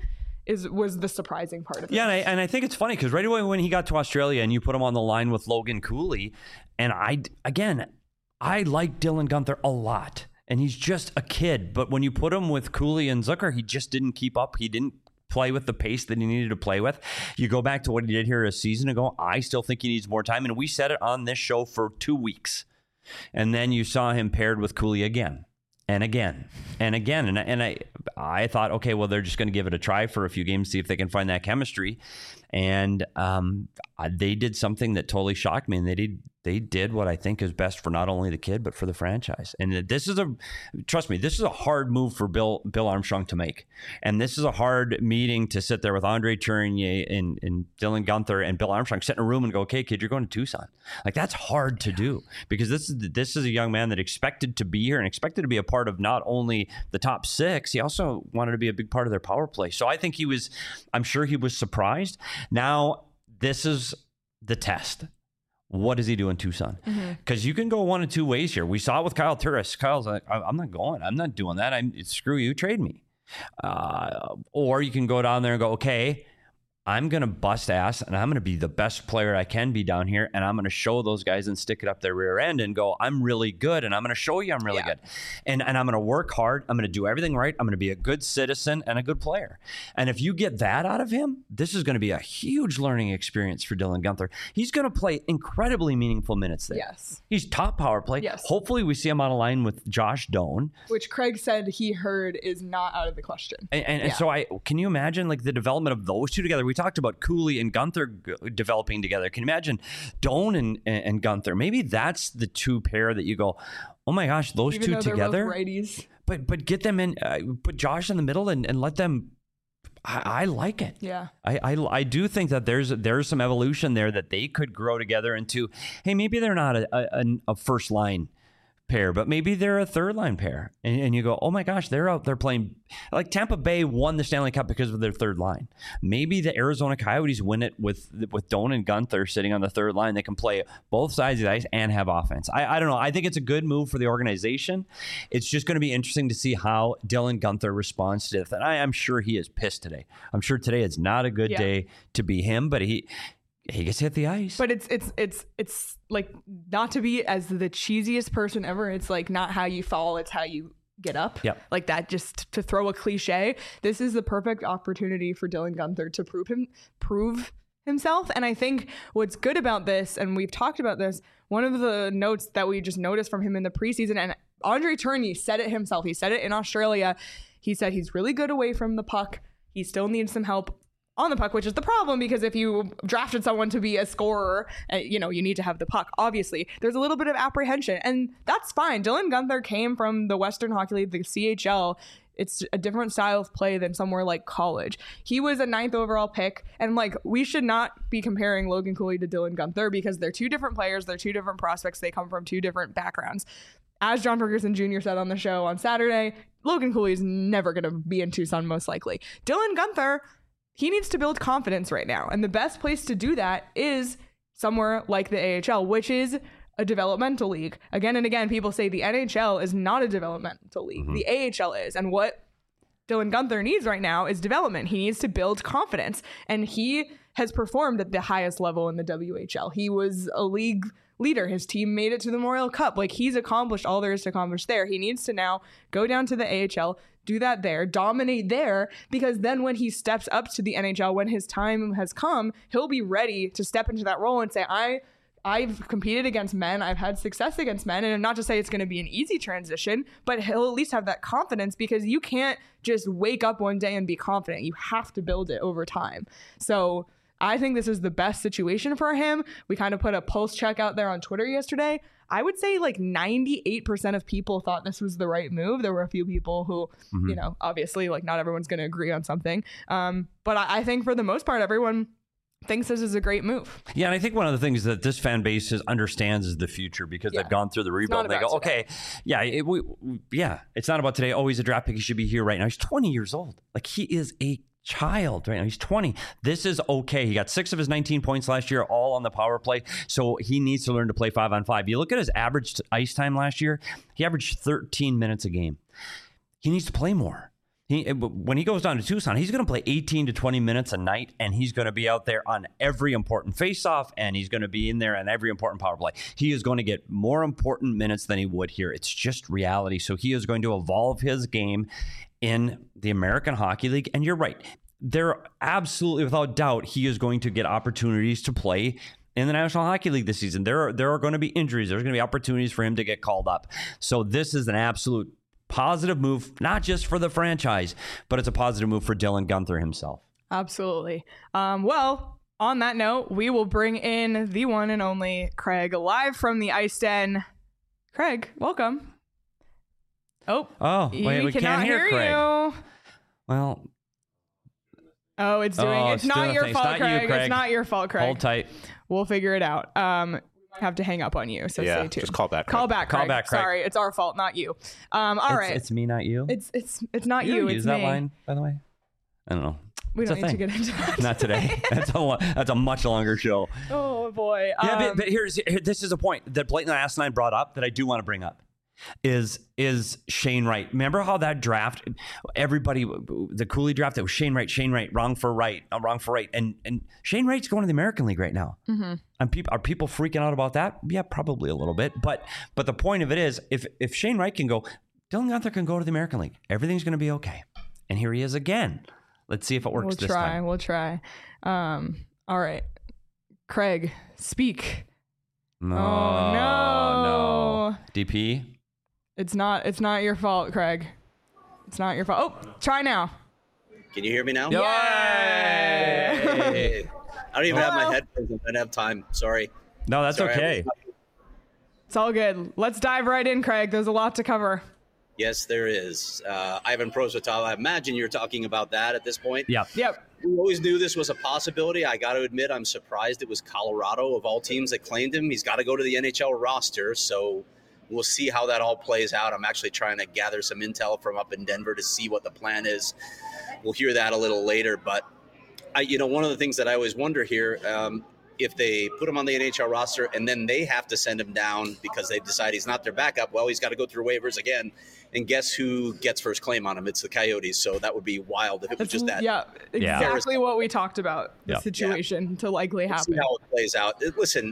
is was the surprising part of it. Yeah, and I, and I think it's funny because right away when he got to Australia and you put him on the line with Logan Cooley, and I, again, I like Dylan Guenther a lot. And he's just a kid. But when you put him with Cooley and Zucker, he just didn't keep up. He didn't play with the pace that he needed to play with. You go back to what he did here a season ago, I still think he needs more time. And we said it on this show for two weeks. And then you saw him paired with Cooley again and again and again. And, and I I thought, okay, well, they're just going to give it a try for a few games, see if they can find that chemistry. And um, they did something that totally shocked me. And they did they did what I think is best for not only the kid, but for the franchise. And this is a, trust me, this is a hard move for Bill Bill Armstrong to make. And this is a hard meeting to sit there with Andre Tourigny and, and Dylan Guenther and Bill Armstrong, sit in a room and go, okay, kid, you're going to Tucson. Like, that's hard to do because this is this is a young man that expected to be here and expected to be a part of not only the top six, he also wanted to be a big part of their power play. So I think he was, I'm sure he was surprised. Now, this is the test. What does he do in Tucson? Because mm-hmm. you can go one of two ways here. We saw it with Kyle Turris. Kyle's like, I'm not going. I'm not doing that. I'm screw you. Trade me. Uh, or you can go down there and go, okay, I'm going to bust ass and I'm going to be the best player I can be down here. And I'm going to show those guys and stick it up their rear end and go, I'm really good. And I'm going to show you I'm really yeah. good. And, and I'm going to work hard. I'm going to do everything right. I'm going to be a good citizen and a good player. And if you get that out of him, this is going to be a huge learning experience for Dylan Guenther. He's going to play incredibly meaningful minutes there. Yes. He's top power play. Yes. Hopefully we see him on a line with Josh Doan. Which Craig said he heard is not out of the question. And, and, yeah. and so I can you imagine like the development of those two together? We talked about Cooley and Guenther g- developing together. Can you imagine Doan and, and, and Guenther? Maybe that's the two pair that you go, oh my gosh, those Even two though they're together. both righties. But but get them in, uh, put Josh in the middle and, and let them. I, I like it. Yeah. I, I I do think that there's there's some evolution there that they could grow together into. Hey, maybe they're not a a, a first line pair, but maybe they're a third line pair. And, and you go, oh my gosh, they're out there playing. Like Tampa Bay won the Stanley Cup because of their third line. Maybe the Arizona Coyotes win it with with Doan and Guenther sitting on the third line. They can play both sides of the ice and have offense. I, I don't know. I think it's a good move for the organization. It's just going to be interesting to see how Dylan Guenther responds to it. And I am sure he is pissed today. I'm sure today is not a good yeah. day to be him, but he he gets hit the ice. But it's it's it's it's like, not to be as the cheesiest person ever, it's like not how you fall, it's how you get up. Yep. Like that, just to throw a cliche. This is the perfect opportunity for Dylan Guenther to prove him prove himself. And I think what's good about this, and we've talked about this, one of the notes that we just noticed from him in the preseason, and Andre Tourigny said it himself. He said it in Australia. He said he's really good away from the puck. He still needs some help on the puck, which is the problem, because if you drafted someone to be a scorer, uh, you know, you need to have the puck. Obviously, there's a little bit of apprehension, and that's fine. Dylan Guenther came from the Western Hockey League, the C H L. It's a different style of play than somewhere like college. He was a ninth overall pick, and like, we should not be comparing Logan Cooley to Dylan Guenther because they're two different players. They're two different prospects. They come from two different backgrounds. As John Ferguson Junior said on the show on Saturday, Logan Cooley is never going to be in Tucson, most likely. Dylan Guenther, he needs to build confidence right now. And the best place to do that is somewhere like the A H L, which is a developmental league. Again and again, people say the N H L is not a developmental league. Mm-hmm. The A H L is. And what Dylan Guenther needs right now is development. He needs to build confidence. And he has performed at the highest level in the W H L. He was a league leader. His team made it to the Memorial Cup. Like, he's accomplished all there is to accomplish there. He needs to now go down to the A H L, do that there, dominate there, because then when he steps up to the N H L, when his time has come, he'll be ready to step into that role and say, I, I've competed against men, I've had success against men, and not to say it's going to be an easy transition, but he'll at least have that confidence, because you can't just wake up one day and be confident. You have to build it over time. So I think this is the best situation for him. We kind of put a pulse check out there on Twitter yesterday. I would say like ninety-eight percent of people thought this was the right move. There were a few people who, mm-hmm. you know, obviously, like, not everyone's going to agree on something. Um, but I, I think for the most part, everyone thinks this is a great move. Yeah, and I think one of the things that this fan base is, understands is the future, because yeah. they've gone through the rebuild. And they go, today. okay, yeah, it, we, yeah, it's not about today. Oh, he's a draft pick. He should be here right now. He's twenty years old. Like, he is a child right now. He's twenty. This is okay. He got six of his nineteen points last year, all on the power play. So he needs to learn to play five on five. You look at his average ice time last year, he averaged thirteen minutes a game. He needs to play more. He, when he goes down to Tucson, he's going to play eighteen to twenty minutes a night, and he's going to be out there on every important faceoff, and he's going to be in there on every important power play. He is going to get more important minutes than he would here. It's just reality. So he is going to evolve his game in the American Hockey League. And you're right. There, absolutely, without doubt, he is going to get opportunities to play in the National Hockey League this season. There are, there are going to be injuries. There's going to be opportunities for him to get called up. So this is an absolute positive move, not just for the franchise, but it's a positive move for Dylan Guenther himself. Absolutely. Um, well, on that note, we will bring in the one and only Craig live from the Ice Den. Craig, welcome. Oh, oh wait, we can't hear, hear Craig. You. Well, oh, it's doing. oh, it's, it's not doing your thing. fault, It's not Craig. you, Craig. It's not your fault, Craig. Hold tight. We'll figure it out. Um, have to hang up on you. So yeah, stay tuned. just call back. Call Craig. back, Call Craig. back, Craig. Sorry, it's our fault, not you. Um, all it's, right. It's me, not you. It's it's it's not you. you. don't It's use me. that line, by the way. I don't know. We It's don't a need to thing. get into that. Not today. That's a lo- that's a much longer show. Oh boy. Yeah, Um, but, but here's here, this is a point that Blake Asinine brought up that I do want to bring up. Is is Shane Wright? Remember how that draft, everybody, the Cooley draft, that was Shane Wright, Shane Wright, wrong for right, uh, wrong for right, and and Shane Wright's going to the American League right now. Mm-hmm. And people are people freaking out about that? Yeah, probably a little bit. But but the point of it is, if if Shane Wright can go, Dylan Guenther can go to the American League. Everything's going to be okay. And here he is again. Let's see if it works we'll this try. time. We'll try. Um. All right, Craig, speak. No, Oh, no. no. D P. It's not. It's not your fault, Craig. It's not your fault. Oh, try now. Can you hear me now? Yay! Hey. I don't even have Hello? my headphones. I don't have time. Sorry. No, that's Sorry, I okay. was- It's all good. Let's dive right in, Craig. There's a lot to cover. Yes, there is. Uh, Ivan Prosvetov, I imagine you're talking about that at this point. Yeah. Yep. We always knew this was a possibility. I got to admit, I'm surprised it was Colorado of all teams that claimed him. He's got to go to the N H L roster, so we'll see how that all plays out. I'm actually trying to gather some intel from up in Denver to see what the plan is. We'll hear that a little later, but I, you know, one of the things that I always wonder here, um, if they put him on the N H L roster and then they have to send him down because they decide he's not their backup, well, he's got to go through waivers again. And guess who gets first claim on him? It's the Coyotes. So that would be wild if it was That's, just that. yeah, Yeah. exactly what we talked about. The Yeah. situation to likely We'll happen. see how it plays out. Uh, Listen,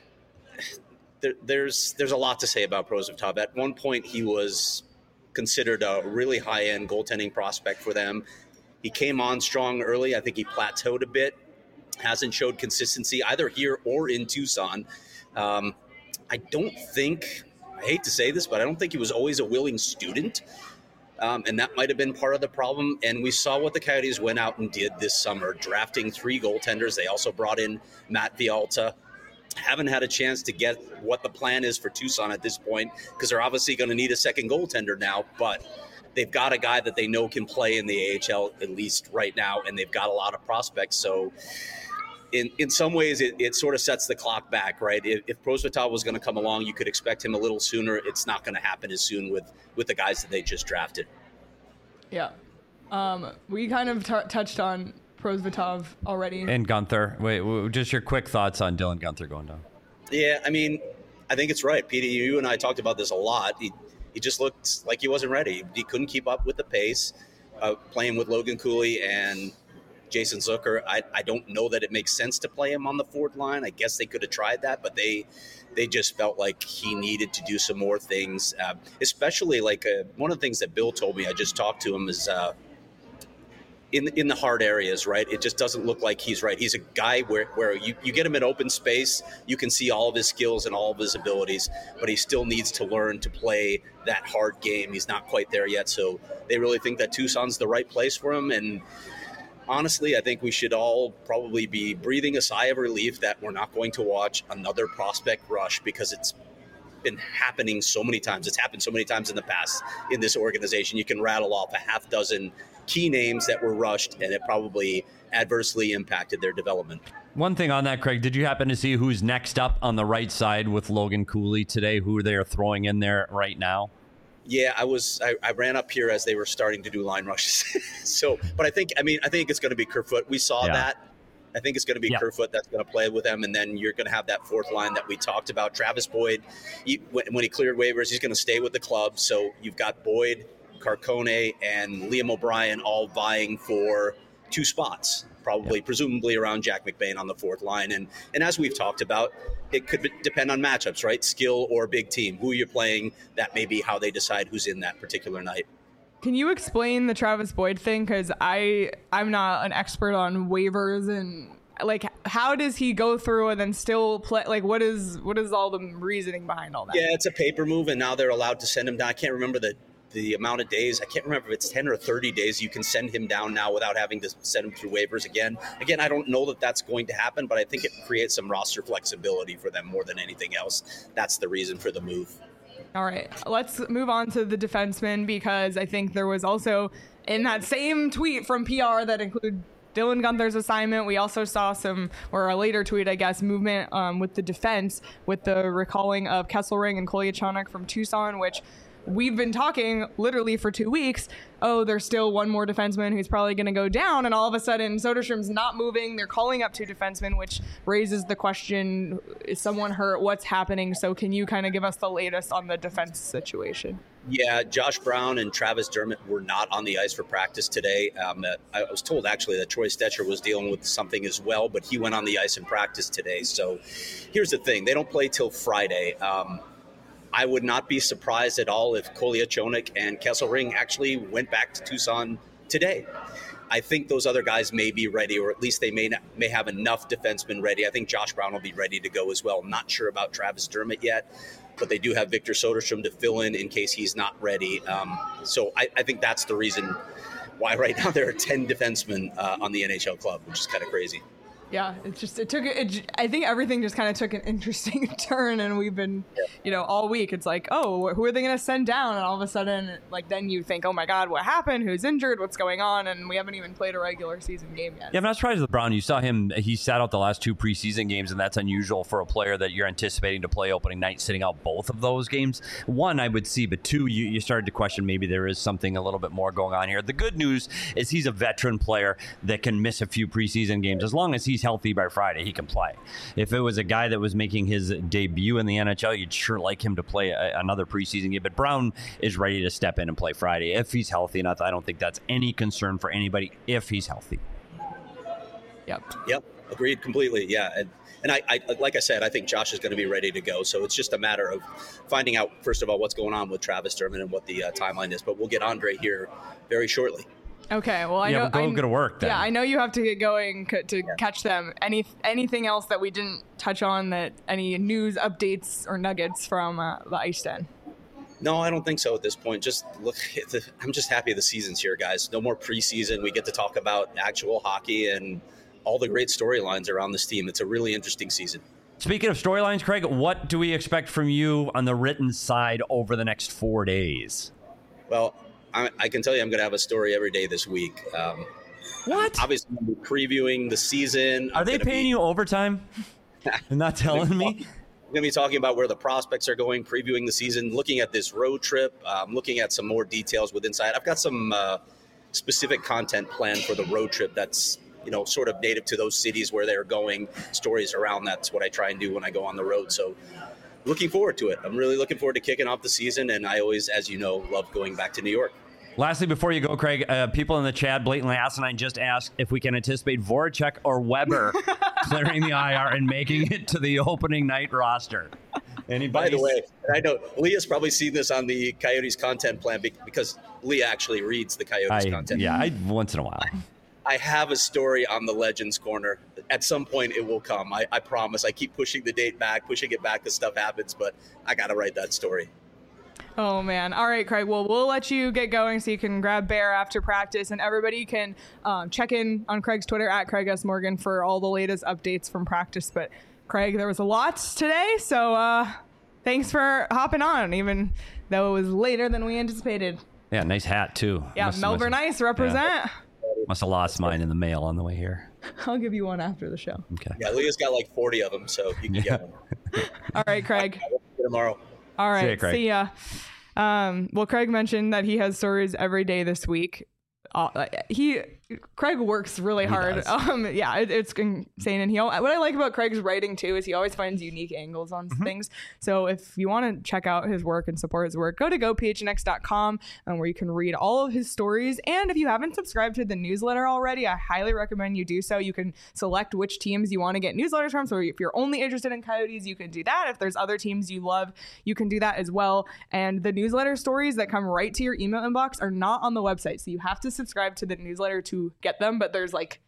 there, there's there's a lot to say about Prosvetov. At one point, he was considered a really high-end goaltending prospect for them. He came on strong early. I think he plateaued a bit. Hasn't showed consistency either here or in Tucson. Um, I don't think, I hate to say this, but I don't think he was always a willing student. Um, and that might have been part of the problem. And we saw what the Coyotes went out and did this summer, drafting three goaltenders. They also brought in Matt Vialta. Haven't had a chance to get what the plan is for Tucson at this point because they're obviously going to need a second goaltender now. But they've got a guy that they know can play in the A H L, at least right now, and they've got a lot of prospects. So in in some ways, it, it sort of sets the clock back, right? If, if Prosvetov was going to come along, you could expect him a little sooner. It's not going to happen as soon with, with the guys that they just drafted. Yeah. Um, we kind of t- touched on Prosvetov already. And Guenther. Wait, wait, just your quick thoughts on Dylan Guenther going down. Yeah, I mean, I think it's right. Petey, you and I talked about this a lot. He, he just looked like he wasn't ready. He couldn't keep up with the pace, uh, playing with Logan Cooley and Jason Zucker. I, I don't know that it makes sense to play him on the fourth line. I guess they could have tried that, but they they just felt like he needed to do some more things, uh, especially like uh, one of the things that Bill told me, I just talked to him, is uh, in, in the hard areas, right? It just doesn't look like he's right. He's a guy where, where you, you get him in open space, you can see all of his skills and all of his abilities, but he still needs to learn to play that hard game. He's not quite there yet, so they really think that Tucson's the right place for him, and honestly, I think we should all probably be breathing a sigh of relief that we're not going to watch another prospect rush, because it's been happening so many times. It's happened so many times in the past in this organization. You can rattle off a half dozen key names that were rushed, and it probably adversely impacted their development. One thing on that, Craig, did you happen to see who's next up on the right side with Logan Cooley today, who they're throwing in there right now? Yeah, I was. I, I ran up here as they were starting to do line rushes. so, but I think, I mean, I think it's going to be Kerfoot. We saw Yeah. that. I think it's going to be Yeah. Kerfoot that's going to play with them, and then you're going to have that fourth line that we talked about. Travis Boyd, he, when, when he cleared waivers, he's going to stay with the club. So you've got Boyd, Carcone, and Liam O'Brien all vying for two spots, probably, yeah. presumably around Jack McBain on the fourth line. And and as we've talked about, it could depend on matchups, right? Skill or big team. Who you're playing, that may be how they decide who's in that particular night. Can you explain the Travis Boyd thing? Because I, I'm not an expert on waivers and like how does he go through and then still play? Like what is what is all the reasoning behind all that? Yeah, it's a paper move, and now they're allowed to send him down. I can't remember the the amount of days. I can't remember if it's ten or thirty days you can send him down now without having to send him through waivers again. Again, I don't know that that's going to happen, but I think it creates some roster flexibility for them more than anything else. That's the reason for the move. All right, let's move on to the defenseman, because I think there was also in that same tweet from P R that included Dylan Guenther's assignment. We also saw some, or a later tweet, I guess, movement um, with the defense with the recalling of Kesselring and Kolyachonok from Tucson, which we've been talking literally for two weeks. Oh, there's still one more defenseman who's probably going to go down. And all of a sudden, Soderstrom's not moving. They're calling up two defensemen, which raises the question, is someone hurt? What's happening? So can you kind of give us the latest on the defense situation? Yeah, Josh Brown and Travis Dermott were not on the ice for practice today. Um, I was told, actually, that Troy Stecher was dealing with something as well, but he went on the ice in practice today. So here's the thing. They don't play till Friday. Um, I would not be surprised at all if Kolyachonok and Kesselring actually went back to Tucson today. I think those other guys may be ready, or at least they may not, may have enough defensemen ready. I think Josh Brown will be ready to go as well. I'm not sure about Travis Dermott yet, but they do have Victor Soderstrom to fill in in case he's not ready. Um, so I, I think that's the reason why right now there are ten defensemen uh, on the N H L club, which is kind of crazy. Yeah, it just, it took, it, I think everything just kind of took an interesting turn, and we've been, yeah. you know, all week, it's like, oh, who are they going to send down? And all of a sudden, like, then you think, oh my God, what happened? Who's injured? What's going on? And we haven't even played a regular season game yet. Yeah, I'm not surprised with Brown. You saw him, he sat out the last two preseason games, and that's unusual for a player that you're anticipating to play opening night, sitting out both of those games. One, I would see, but two, you, you started to question maybe there is something a little bit more going on here. The good news is he's a veteran player that can miss a few preseason games. As long as he's healthy by Friday, he can play. If it was a guy that was making his debut in the N H L, you'd sure like him to play a, another preseason game. But Brown is ready to step in and play Friday if he's healthy enough. I don't think that's any concern for anybody if he's healthy. Yep. Yep. Agreed completely. Yeah. And and I, I like I said, I think Josh is going to be ready to go. So it's just a matter of finding out, first of all, what's going on with Travis Dermott and what the uh, timeline is. But we'll get Andre here very shortly. Okay, well, I yeah, know. We'll go I, go to work then. Yeah, I know you have to get going c- to yeah. catch them. Any anything else that we didn't touch on? That any news updates or nuggets from uh, the Ice Den? No, I don't think so at this point. Just look, the, I'm just happy the season's here, guys. No more preseason. We get to talk about actual hockey and all the great storylines around this team. It's a really interesting season. Speaking of storylines, Craig, what do we expect from you on the written side over the next four days? Well, I, I can tell you I'm going to have a story every day this week. Um, what? Obviously, I'm previewing the season. Are I'm they paying be, you overtime and not telling me? I'm going to be talking about where the prospects are going, previewing the season, looking at this road trip, um, looking at some more details with Inside. I've got some uh, specific content planned for the road trip that's, you know, sort of native to those cities where they're going, stories around. That's what I try and do when I go on the road. So looking forward to it. I'm really looking forward to kicking off the season. And I always, as you know, love going back to New York. Lastly, before you go, Craig, uh, people in the chat blatantly asinine just asked if we can anticipate Voracek or Weber clearing the I R and making it to the opening night roster. Anybody? By the way, I know Leah's probably seen this on the Coyotes content plan because Leah actually reads the Coyotes I, content. Yeah, I, once in a while. I have a story on the Legends Corner. At some point, it will come. I, I promise. I keep pushing the date back, pushing it back as stuff happens, but I got to write that story. Oh, man. All right, Craig. Well, we'll let you get going so you can grab Bear after practice, and everybody can um, check in on Craig's Twitter at Craig S. Morgan for all the latest updates from practice. But, Craig, there was a lot today, so uh, thanks for hopping on, even though it was later than we anticipated. Yeah, nice hat, too. Yeah, must, Melbourne must, Ice represent. Yeah. Must have lost mine in the mail on the way here. I'll give you one after the show. Okay. Yeah, Leah's got like forty of them, so you can yeah. get one. All right, Craig. Tomorrow. All right, see, you, Craig. see ya. Um, well, Craig mentioned that he has stories every day this week. Uh, he Craig works really He hard. does. Um, yeah, it, it's insane. And he, al- what I like about Craig's writing too is he always finds unique angles on Mm-hmm. things. So if you want to check out his work and support his work, go to go p h n x dot com, um, where you can read all of his stories. And if you haven't subscribed to the newsletter already, I highly recommend you do so. You can select which teams you want to get newsletters from. So if you're only interested in Coyotes, you can do that. If there's other teams you love, you can do that as well. And the newsletter stories that come right to your email inbox are not on the website. So you have to subscribe to the newsletter to get them, but there's like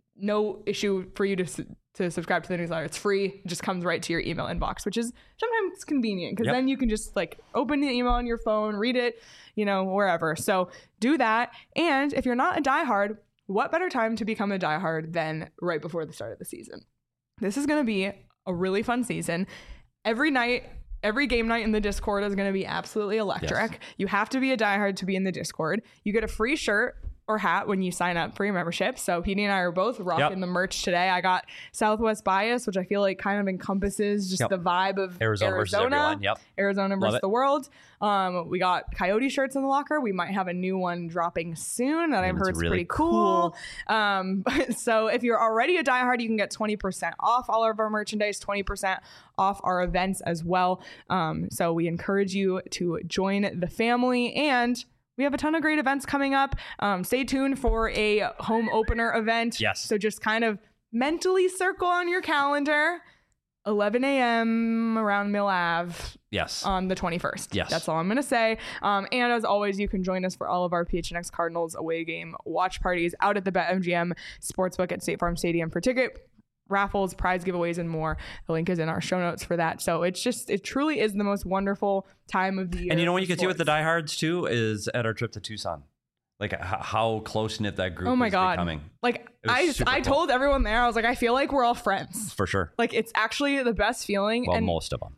no issue for you to to subscribe to the newsletter. It's free. It just comes right to your email inbox, which is sometimes convenient because Yep. then you can just like open the email on your phone, read it, you know, wherever. So do that. And if you're not a diehard, what better time to become a diehard than right before the start of the season? This is going to be a really fun season. Every night, every game night in the Discord is going to be absolutely electric. Yes. You have to be a diehard to be in the Discord. You get a free shirt or hat when you sign up for your membership. So P D and I are both rocking Yep. the merch today. I got Southwest Bias, which I feel like kind of encompasses just Yep. the vibe of Arizona, versus everyone. Yep. Arizona versus it. the world. Um, we got Coyote shirts in the locker. We might have a new one dropping soon that I've it's heard is really pretty cool. Um, so if you're already a diehard, you can get twenty percent off all of our merchandise, twenty percent off our events as well. Um, so we encourage you to join the family, and we have a ton of great events coming up. Um, stay tuned for a home opener event. Yes. So just kind of mentally circle on your calendar, eleven a.m. around Mill Ave Yes. on the twenty-first. Yes. That's all I'm going to say. Um, and as always, you can join us for all of our P H N X Cardinals away game watch parties out at the BetMGM Sportsbook at State Farm Stadium for ticket raffles, prize giveaways, and more. The link is in our show notes for that. So it's just, it truly is the most wonderful time of the year. And you know what for you can see with the sports. diehards too is at our trip to Tucson, like h- how close knit that group Oh my is God. becoming. Like was I, super I cool. told everyone there, I was like, I feel like we're all friends. For sure. Like it's actually the best feeling. Well, and most of them.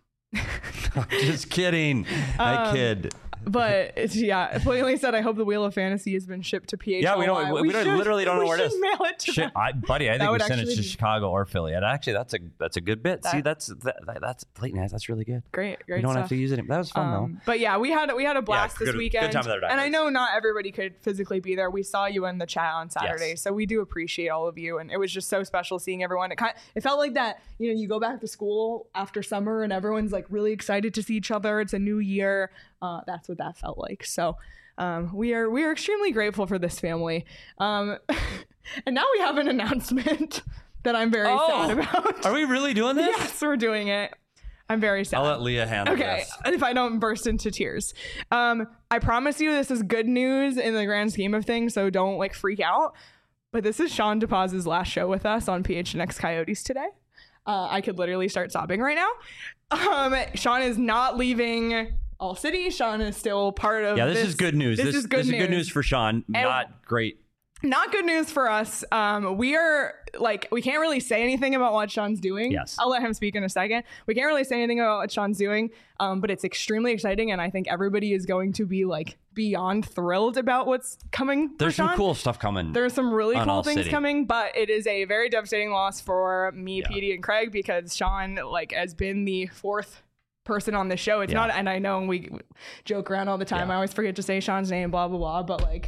Just kidding. I Um, kid. But it's, yeah, plainly said, I hope the Wheel of Fantasy has been shipped to P H L Y. Yeah, we don't. We, we don't, should- literally don't know we where it is. should mail it to Shit, them. I, buddy, I That think we would sent it actually to be- Chicago or Philly. And actually, that's a that's a good bit. That- See, that's that, that, that's Clayton has. That's really good. Great, great You don't stuff. have to use it. That was fun Um, but yeah, we had we had a blast good- this good weekend, time with our and I divers. know not everybody could physically be there. We saw you in the chat on Saturday, Yes. so we do appreciate all of you, and it was just so special seeing everyone. It kind it felt like that, you know, you go back to school after summer, and everyone's like really excited to see each other. It's a new year. Uh, that's what that felt like. So. Um, we are we are extremely grateful for this family, um, and now we have an announcement that I'm very Oh, sad about. Are we really doing this? Yes, we're doing it. I'm very sad. I'll let Leah handle Okay, this. if I don't burst into tears. Um, I promise you this is good news in the grand scheme of things, so don't like freak out. But this is Sean DePaz's last show with us on P H N X Coyotes today. Uh, I could literally start sobbing right now. Um, Sean is not leaving All City. Sean is still part of Yeah, this, is good news. This, is good this news. is good news for Sean. Not great. Not good news for us. Um, we are like, we can't really say anything about what Sean's doing. Yes. I'll let him speak in a second. We can't really say anything about what Sean's doing, um, but it's extremely exciting. And I think everybody is going to be like beyond thrilled about what's coming. for There's some Sean. cool stuff coming. There's some really on cool All things City. coming, but it is a very devastating loss for me, Yeah. Petey, and Craig, because Sean like has been the fourth person on the show. It's Yeah. not, and I know we joke around all the time. Yeah. I always forget to say Sean's name, blah, blah, blah. But like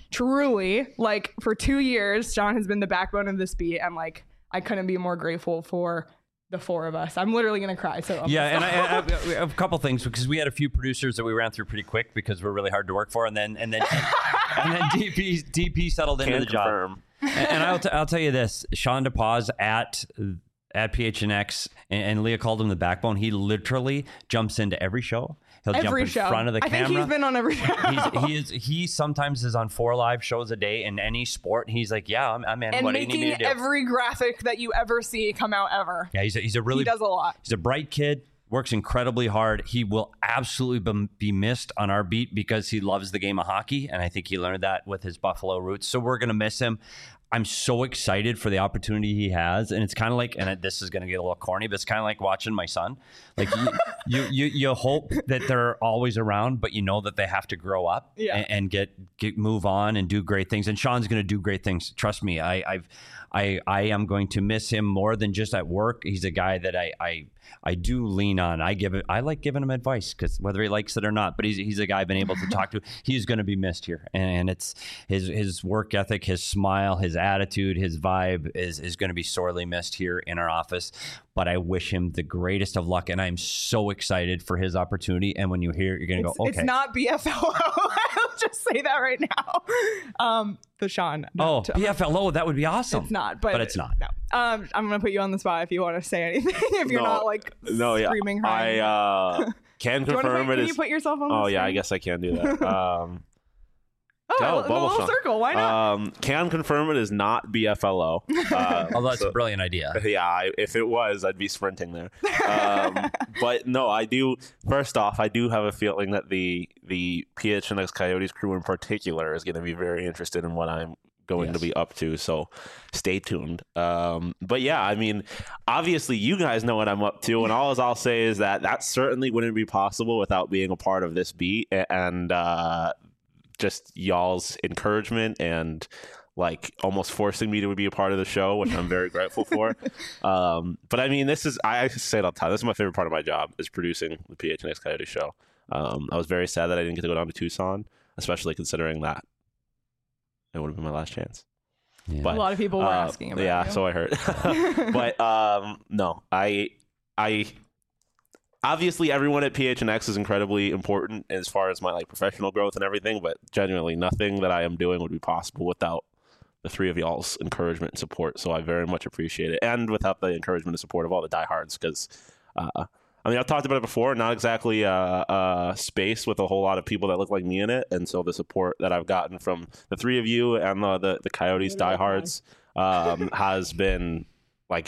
truly, like for two years, Sean has been the backbone of this beat. And like, I couldn't be more grateful for the four of us. I'm literally going to cry. So I'm Yeah, and gonna I, I, stop. I, a couple things because we had a few producers that we ran through pretty quick because we're really hard to work for, and then and then and then D P D P settled into Can the job. confirm. And, and I'll t- I'll tell you this: Sean DePaz at at P H N X, and, and Leah called him the backbone. He literally jumps into every show. He'll jump Every in show. front of the I camera. think he's been on every show. He's, he is. He sometimes is on four live shows a day in any sport. He's like, yeah, I'm, I'm in. and what do you need me making to do? every graphic that you ever see come out ever. yeah, he's a, he's a really He does a lot. He's a bright kid, works incredibly hard. He will absolutely be- be missed on our beat because he loves the game of hockey, and I think he learned that with his Buffalo roots. So we're going to miss him. I'm so excited for the opportunity he has, and it's kind of like, and it, this is going to get a little corny, but it's kind of like watching my son. Like you, you, you, you hope that they're always around, but you know that they have to grow up Yeah. and, and get, get move on and do great things. And Sean's going to do great things. Trust me. I, I've, I, I am going to miss him more than just at work. He's a guy that I, I, I do lean on. I give it. I like giving him advice because whether he likes it or not, but he's he's a guy I've been able to talk to. He's going to be missed here, and it's his his work ethic, his smile, his attitude, his vibe is is going to be sorely missed here in our office. But I wish him the greatest of luck, and I'm so excited for his opportunity. And when you hear, it, you're going to It's, go, okay, it's not B F L O. I'll just say that right now. Um, the Sean. oh, not- B F L O, that would be awesome. It's not, but, but it's not. No. Um, I'm gonna put you on the spot if you want to say anything. If you're No. not like No, yeah, screaming, I crying. uh, can Do you wanna confirm put, it can is. you put yourself on? Oh the yeah, I screen? guess I can do that. Um, Oh, oh, a, a bubble little shot. circle. Why not? Um, can confirm it is not B F L O. Uh, Although that's so- a brilliant idea. Yeah, I, if it was, I'd be sprinting there. Um, but no, I do. First off, I do have a feeling that the the P H N X Coyotes crew in particular is going to be very interested in what I'm going Yes. to be up to. So stay tuned. Um, but yeah, I mean, obviously you guys know what I'm up to, and all I'll say is that that certainly wouldn't be possible without being a part of this beat and uh, just y'all's encouragement and like almost forcing me to be a part of the show, which I'm very grateful for. Um, but I mean, this is, I say it all the time, this is my favorite part of my job, is producing the P H N X Coyote show. Um, I was very sad that I didn't get to go down to Tucson, especially considering that it would have been my last chance. Yeah. But a lot of people were uh, asking about yeah, you. so I heard. But um, no, I, I, obviously everyone at P H N X is incredibly important as far as my like professional growth and everything. But genuinely, nothing that I am doing would be possible without the three of y'all's encouragement and support. So I very much appreciate it, and without the encouragement and support of all the diehards, because. Uh, I mean, I've talked about it before, not exactly a, a space with a whole lot of people that look like me in it. And so the support that I've gotten from the three of you and the, the, the Coyotes diehards um, has been like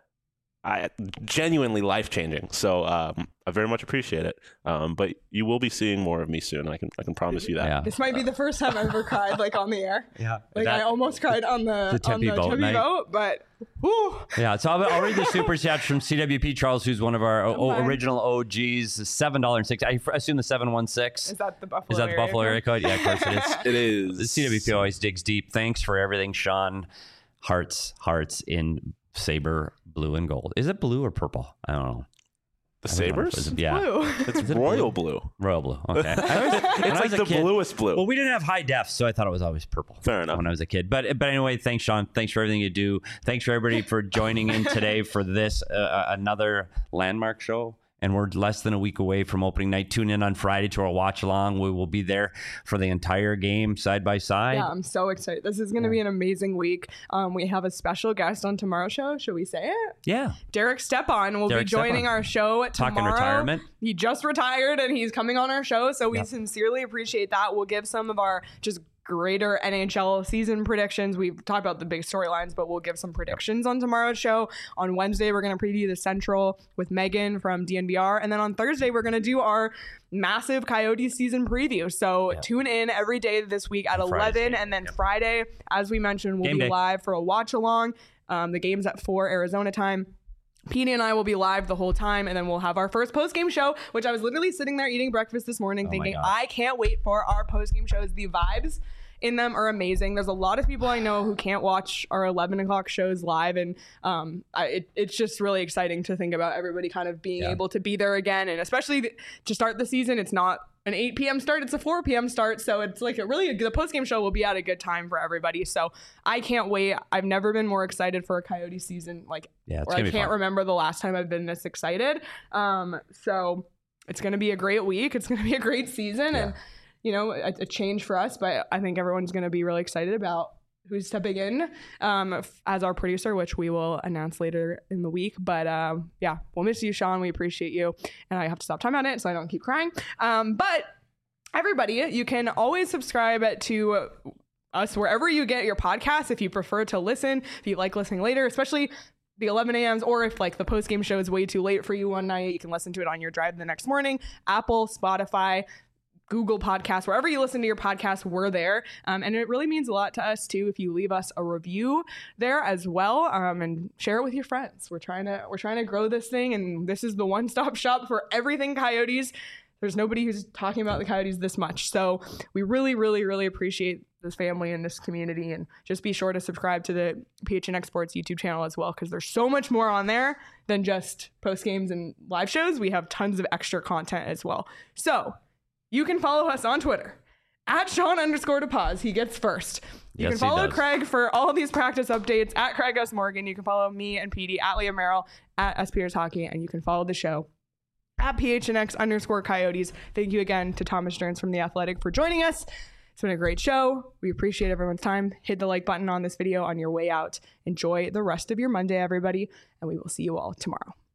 I, genuinely life-changing. So um, I very much appreciate it. Um, but you will be seeing more of me soon. I can I can promise you that. Yeah. This might be the first time I've ever cried like on the air. Yeah. Like That- I almost cried on the, the on the Tempe boat Tempe night. boat, but whew, Yeah, so I'll, I'll read the super chats from C W P Charles, who's one of our o- Okay. original O Gs. Seven dollars and six. I f- assume the seven one six. is that the Buffalo? Is that the area Buffalo code? area code? Yeah, of course it is. It is. The C W P always digs deep. Thanks for everything, Sean. Hearts, hearts in saber blue and gold. Is it blue or purple? I don't know. The I don't know if Sabres? it's- Yeah, Blue. It's Is it royal blue? blue. royal blue. Okay, I always- when I It's like was a the kid- bluest blue. Well, we didn't have high def, so I thought it was always purple. Fair enough. When I was a kid, but but anyway, thanks, Sean. Thanks for everything you do. Thanks for everybody for joining in today for this uh, another landmark show. And we're less than a week away from opening night. Tune in on Friday to our watch along. We will be there for the entire game, side by side. Yeah, I'm so excited. This is going to be an amazing week. Um, we have a special guest on tomorrow's show. Should we say it? Yeah. Derek Stepan will Derek be joining Stepan. our show Talking tomorrow. retirement. He just retired and he's coming on our show, so we Yep. sincerely appreciate that. We'll give some of our just greater N H L season predictions. We've talked about the big storylines, but we'll give some predictions on tomorrow's show. On Wednesday, we're going to preview the Central with Megan from D N V R. And then on Thursday, we're going to do our massive Coyotes season preview. So Yeah. tune in every day this week at On Friday's eleven. game. And then Yep. Friday, as we mentioned, we'll Game be day. live for a watch along. Um, the game's at four Arizona time. Petey and I will be live the whole time, and then we'll have our first post-game show, which I was literally sitting there eating breakfast this morning Oh my thinking, God. I can't wait for our post-game shows. The vibes in them are amazing. There's a lot of people I know who can't watch our eleven o'clock shows live, and um, I, it, it's just really exciting to think about everybody kind of being Yeah. able to be there again, and especially th- to start the season. It's not an eight p.m. start, it's a four p.m. start, so it's like a really the post-game show will be at a good time for everybody. So I can't wait. I've never been more excited for a Coyote season, like Yeah, it's or I gonna be can't fun. remember the last time I've been this excited. Um, so it's going to be a great week. It's going to be a great season, and you know, a, a change for us. But I think everyone's going to be really excited about who's stepping in um, f- as our producer, which we will announce later in the week. But um, yeah, we'll miss you, Sean. We appreciate you, and I have to stop time on it so I don't keep crying. Um, but everybody, you can always subscribe to us wherever you get your podcasts if you prefer to listen, if you like listening later, especially the eleven a.m.s, or if like the post-game show is way too late for you one night, you can listen to it on your drive the next morning. Apple, Spotify, Google Podcasts, wherever you listen to your podcast, we're there. Um, and it really means a lot to us too if you leave us a review there as well, um, and share it with your friends. We're trying to we're trying to grow this thing, and this is the one-stop shop for everything Coyotes. There's nobody who's talking about the Coyotes this much. So we really, really, really appreciate this family and this community. And just be sure to subscribe to the P H N X Sports YouTube channel as well, because there's so much more on there than just post games and live shows. We have tons of extra content as well. So you can follow us on Twitter at Sean underscore DePaz. He gets first. You Yes, can follow he does. Craig for all these practice updates at Craig S. Morgan. You can follow me and P D at Leah Merrill at S P R S Hockey. And you can follow the show at P H N X underscore Coyotes. Thank you again to Thomas Stearns from The Athletic for joining us. It's been a great show. We appreciate everyone's time. Hit the like button on this video on your way out. Enjoy the rest of your Monday, everybody, and we will see you all tomorrow.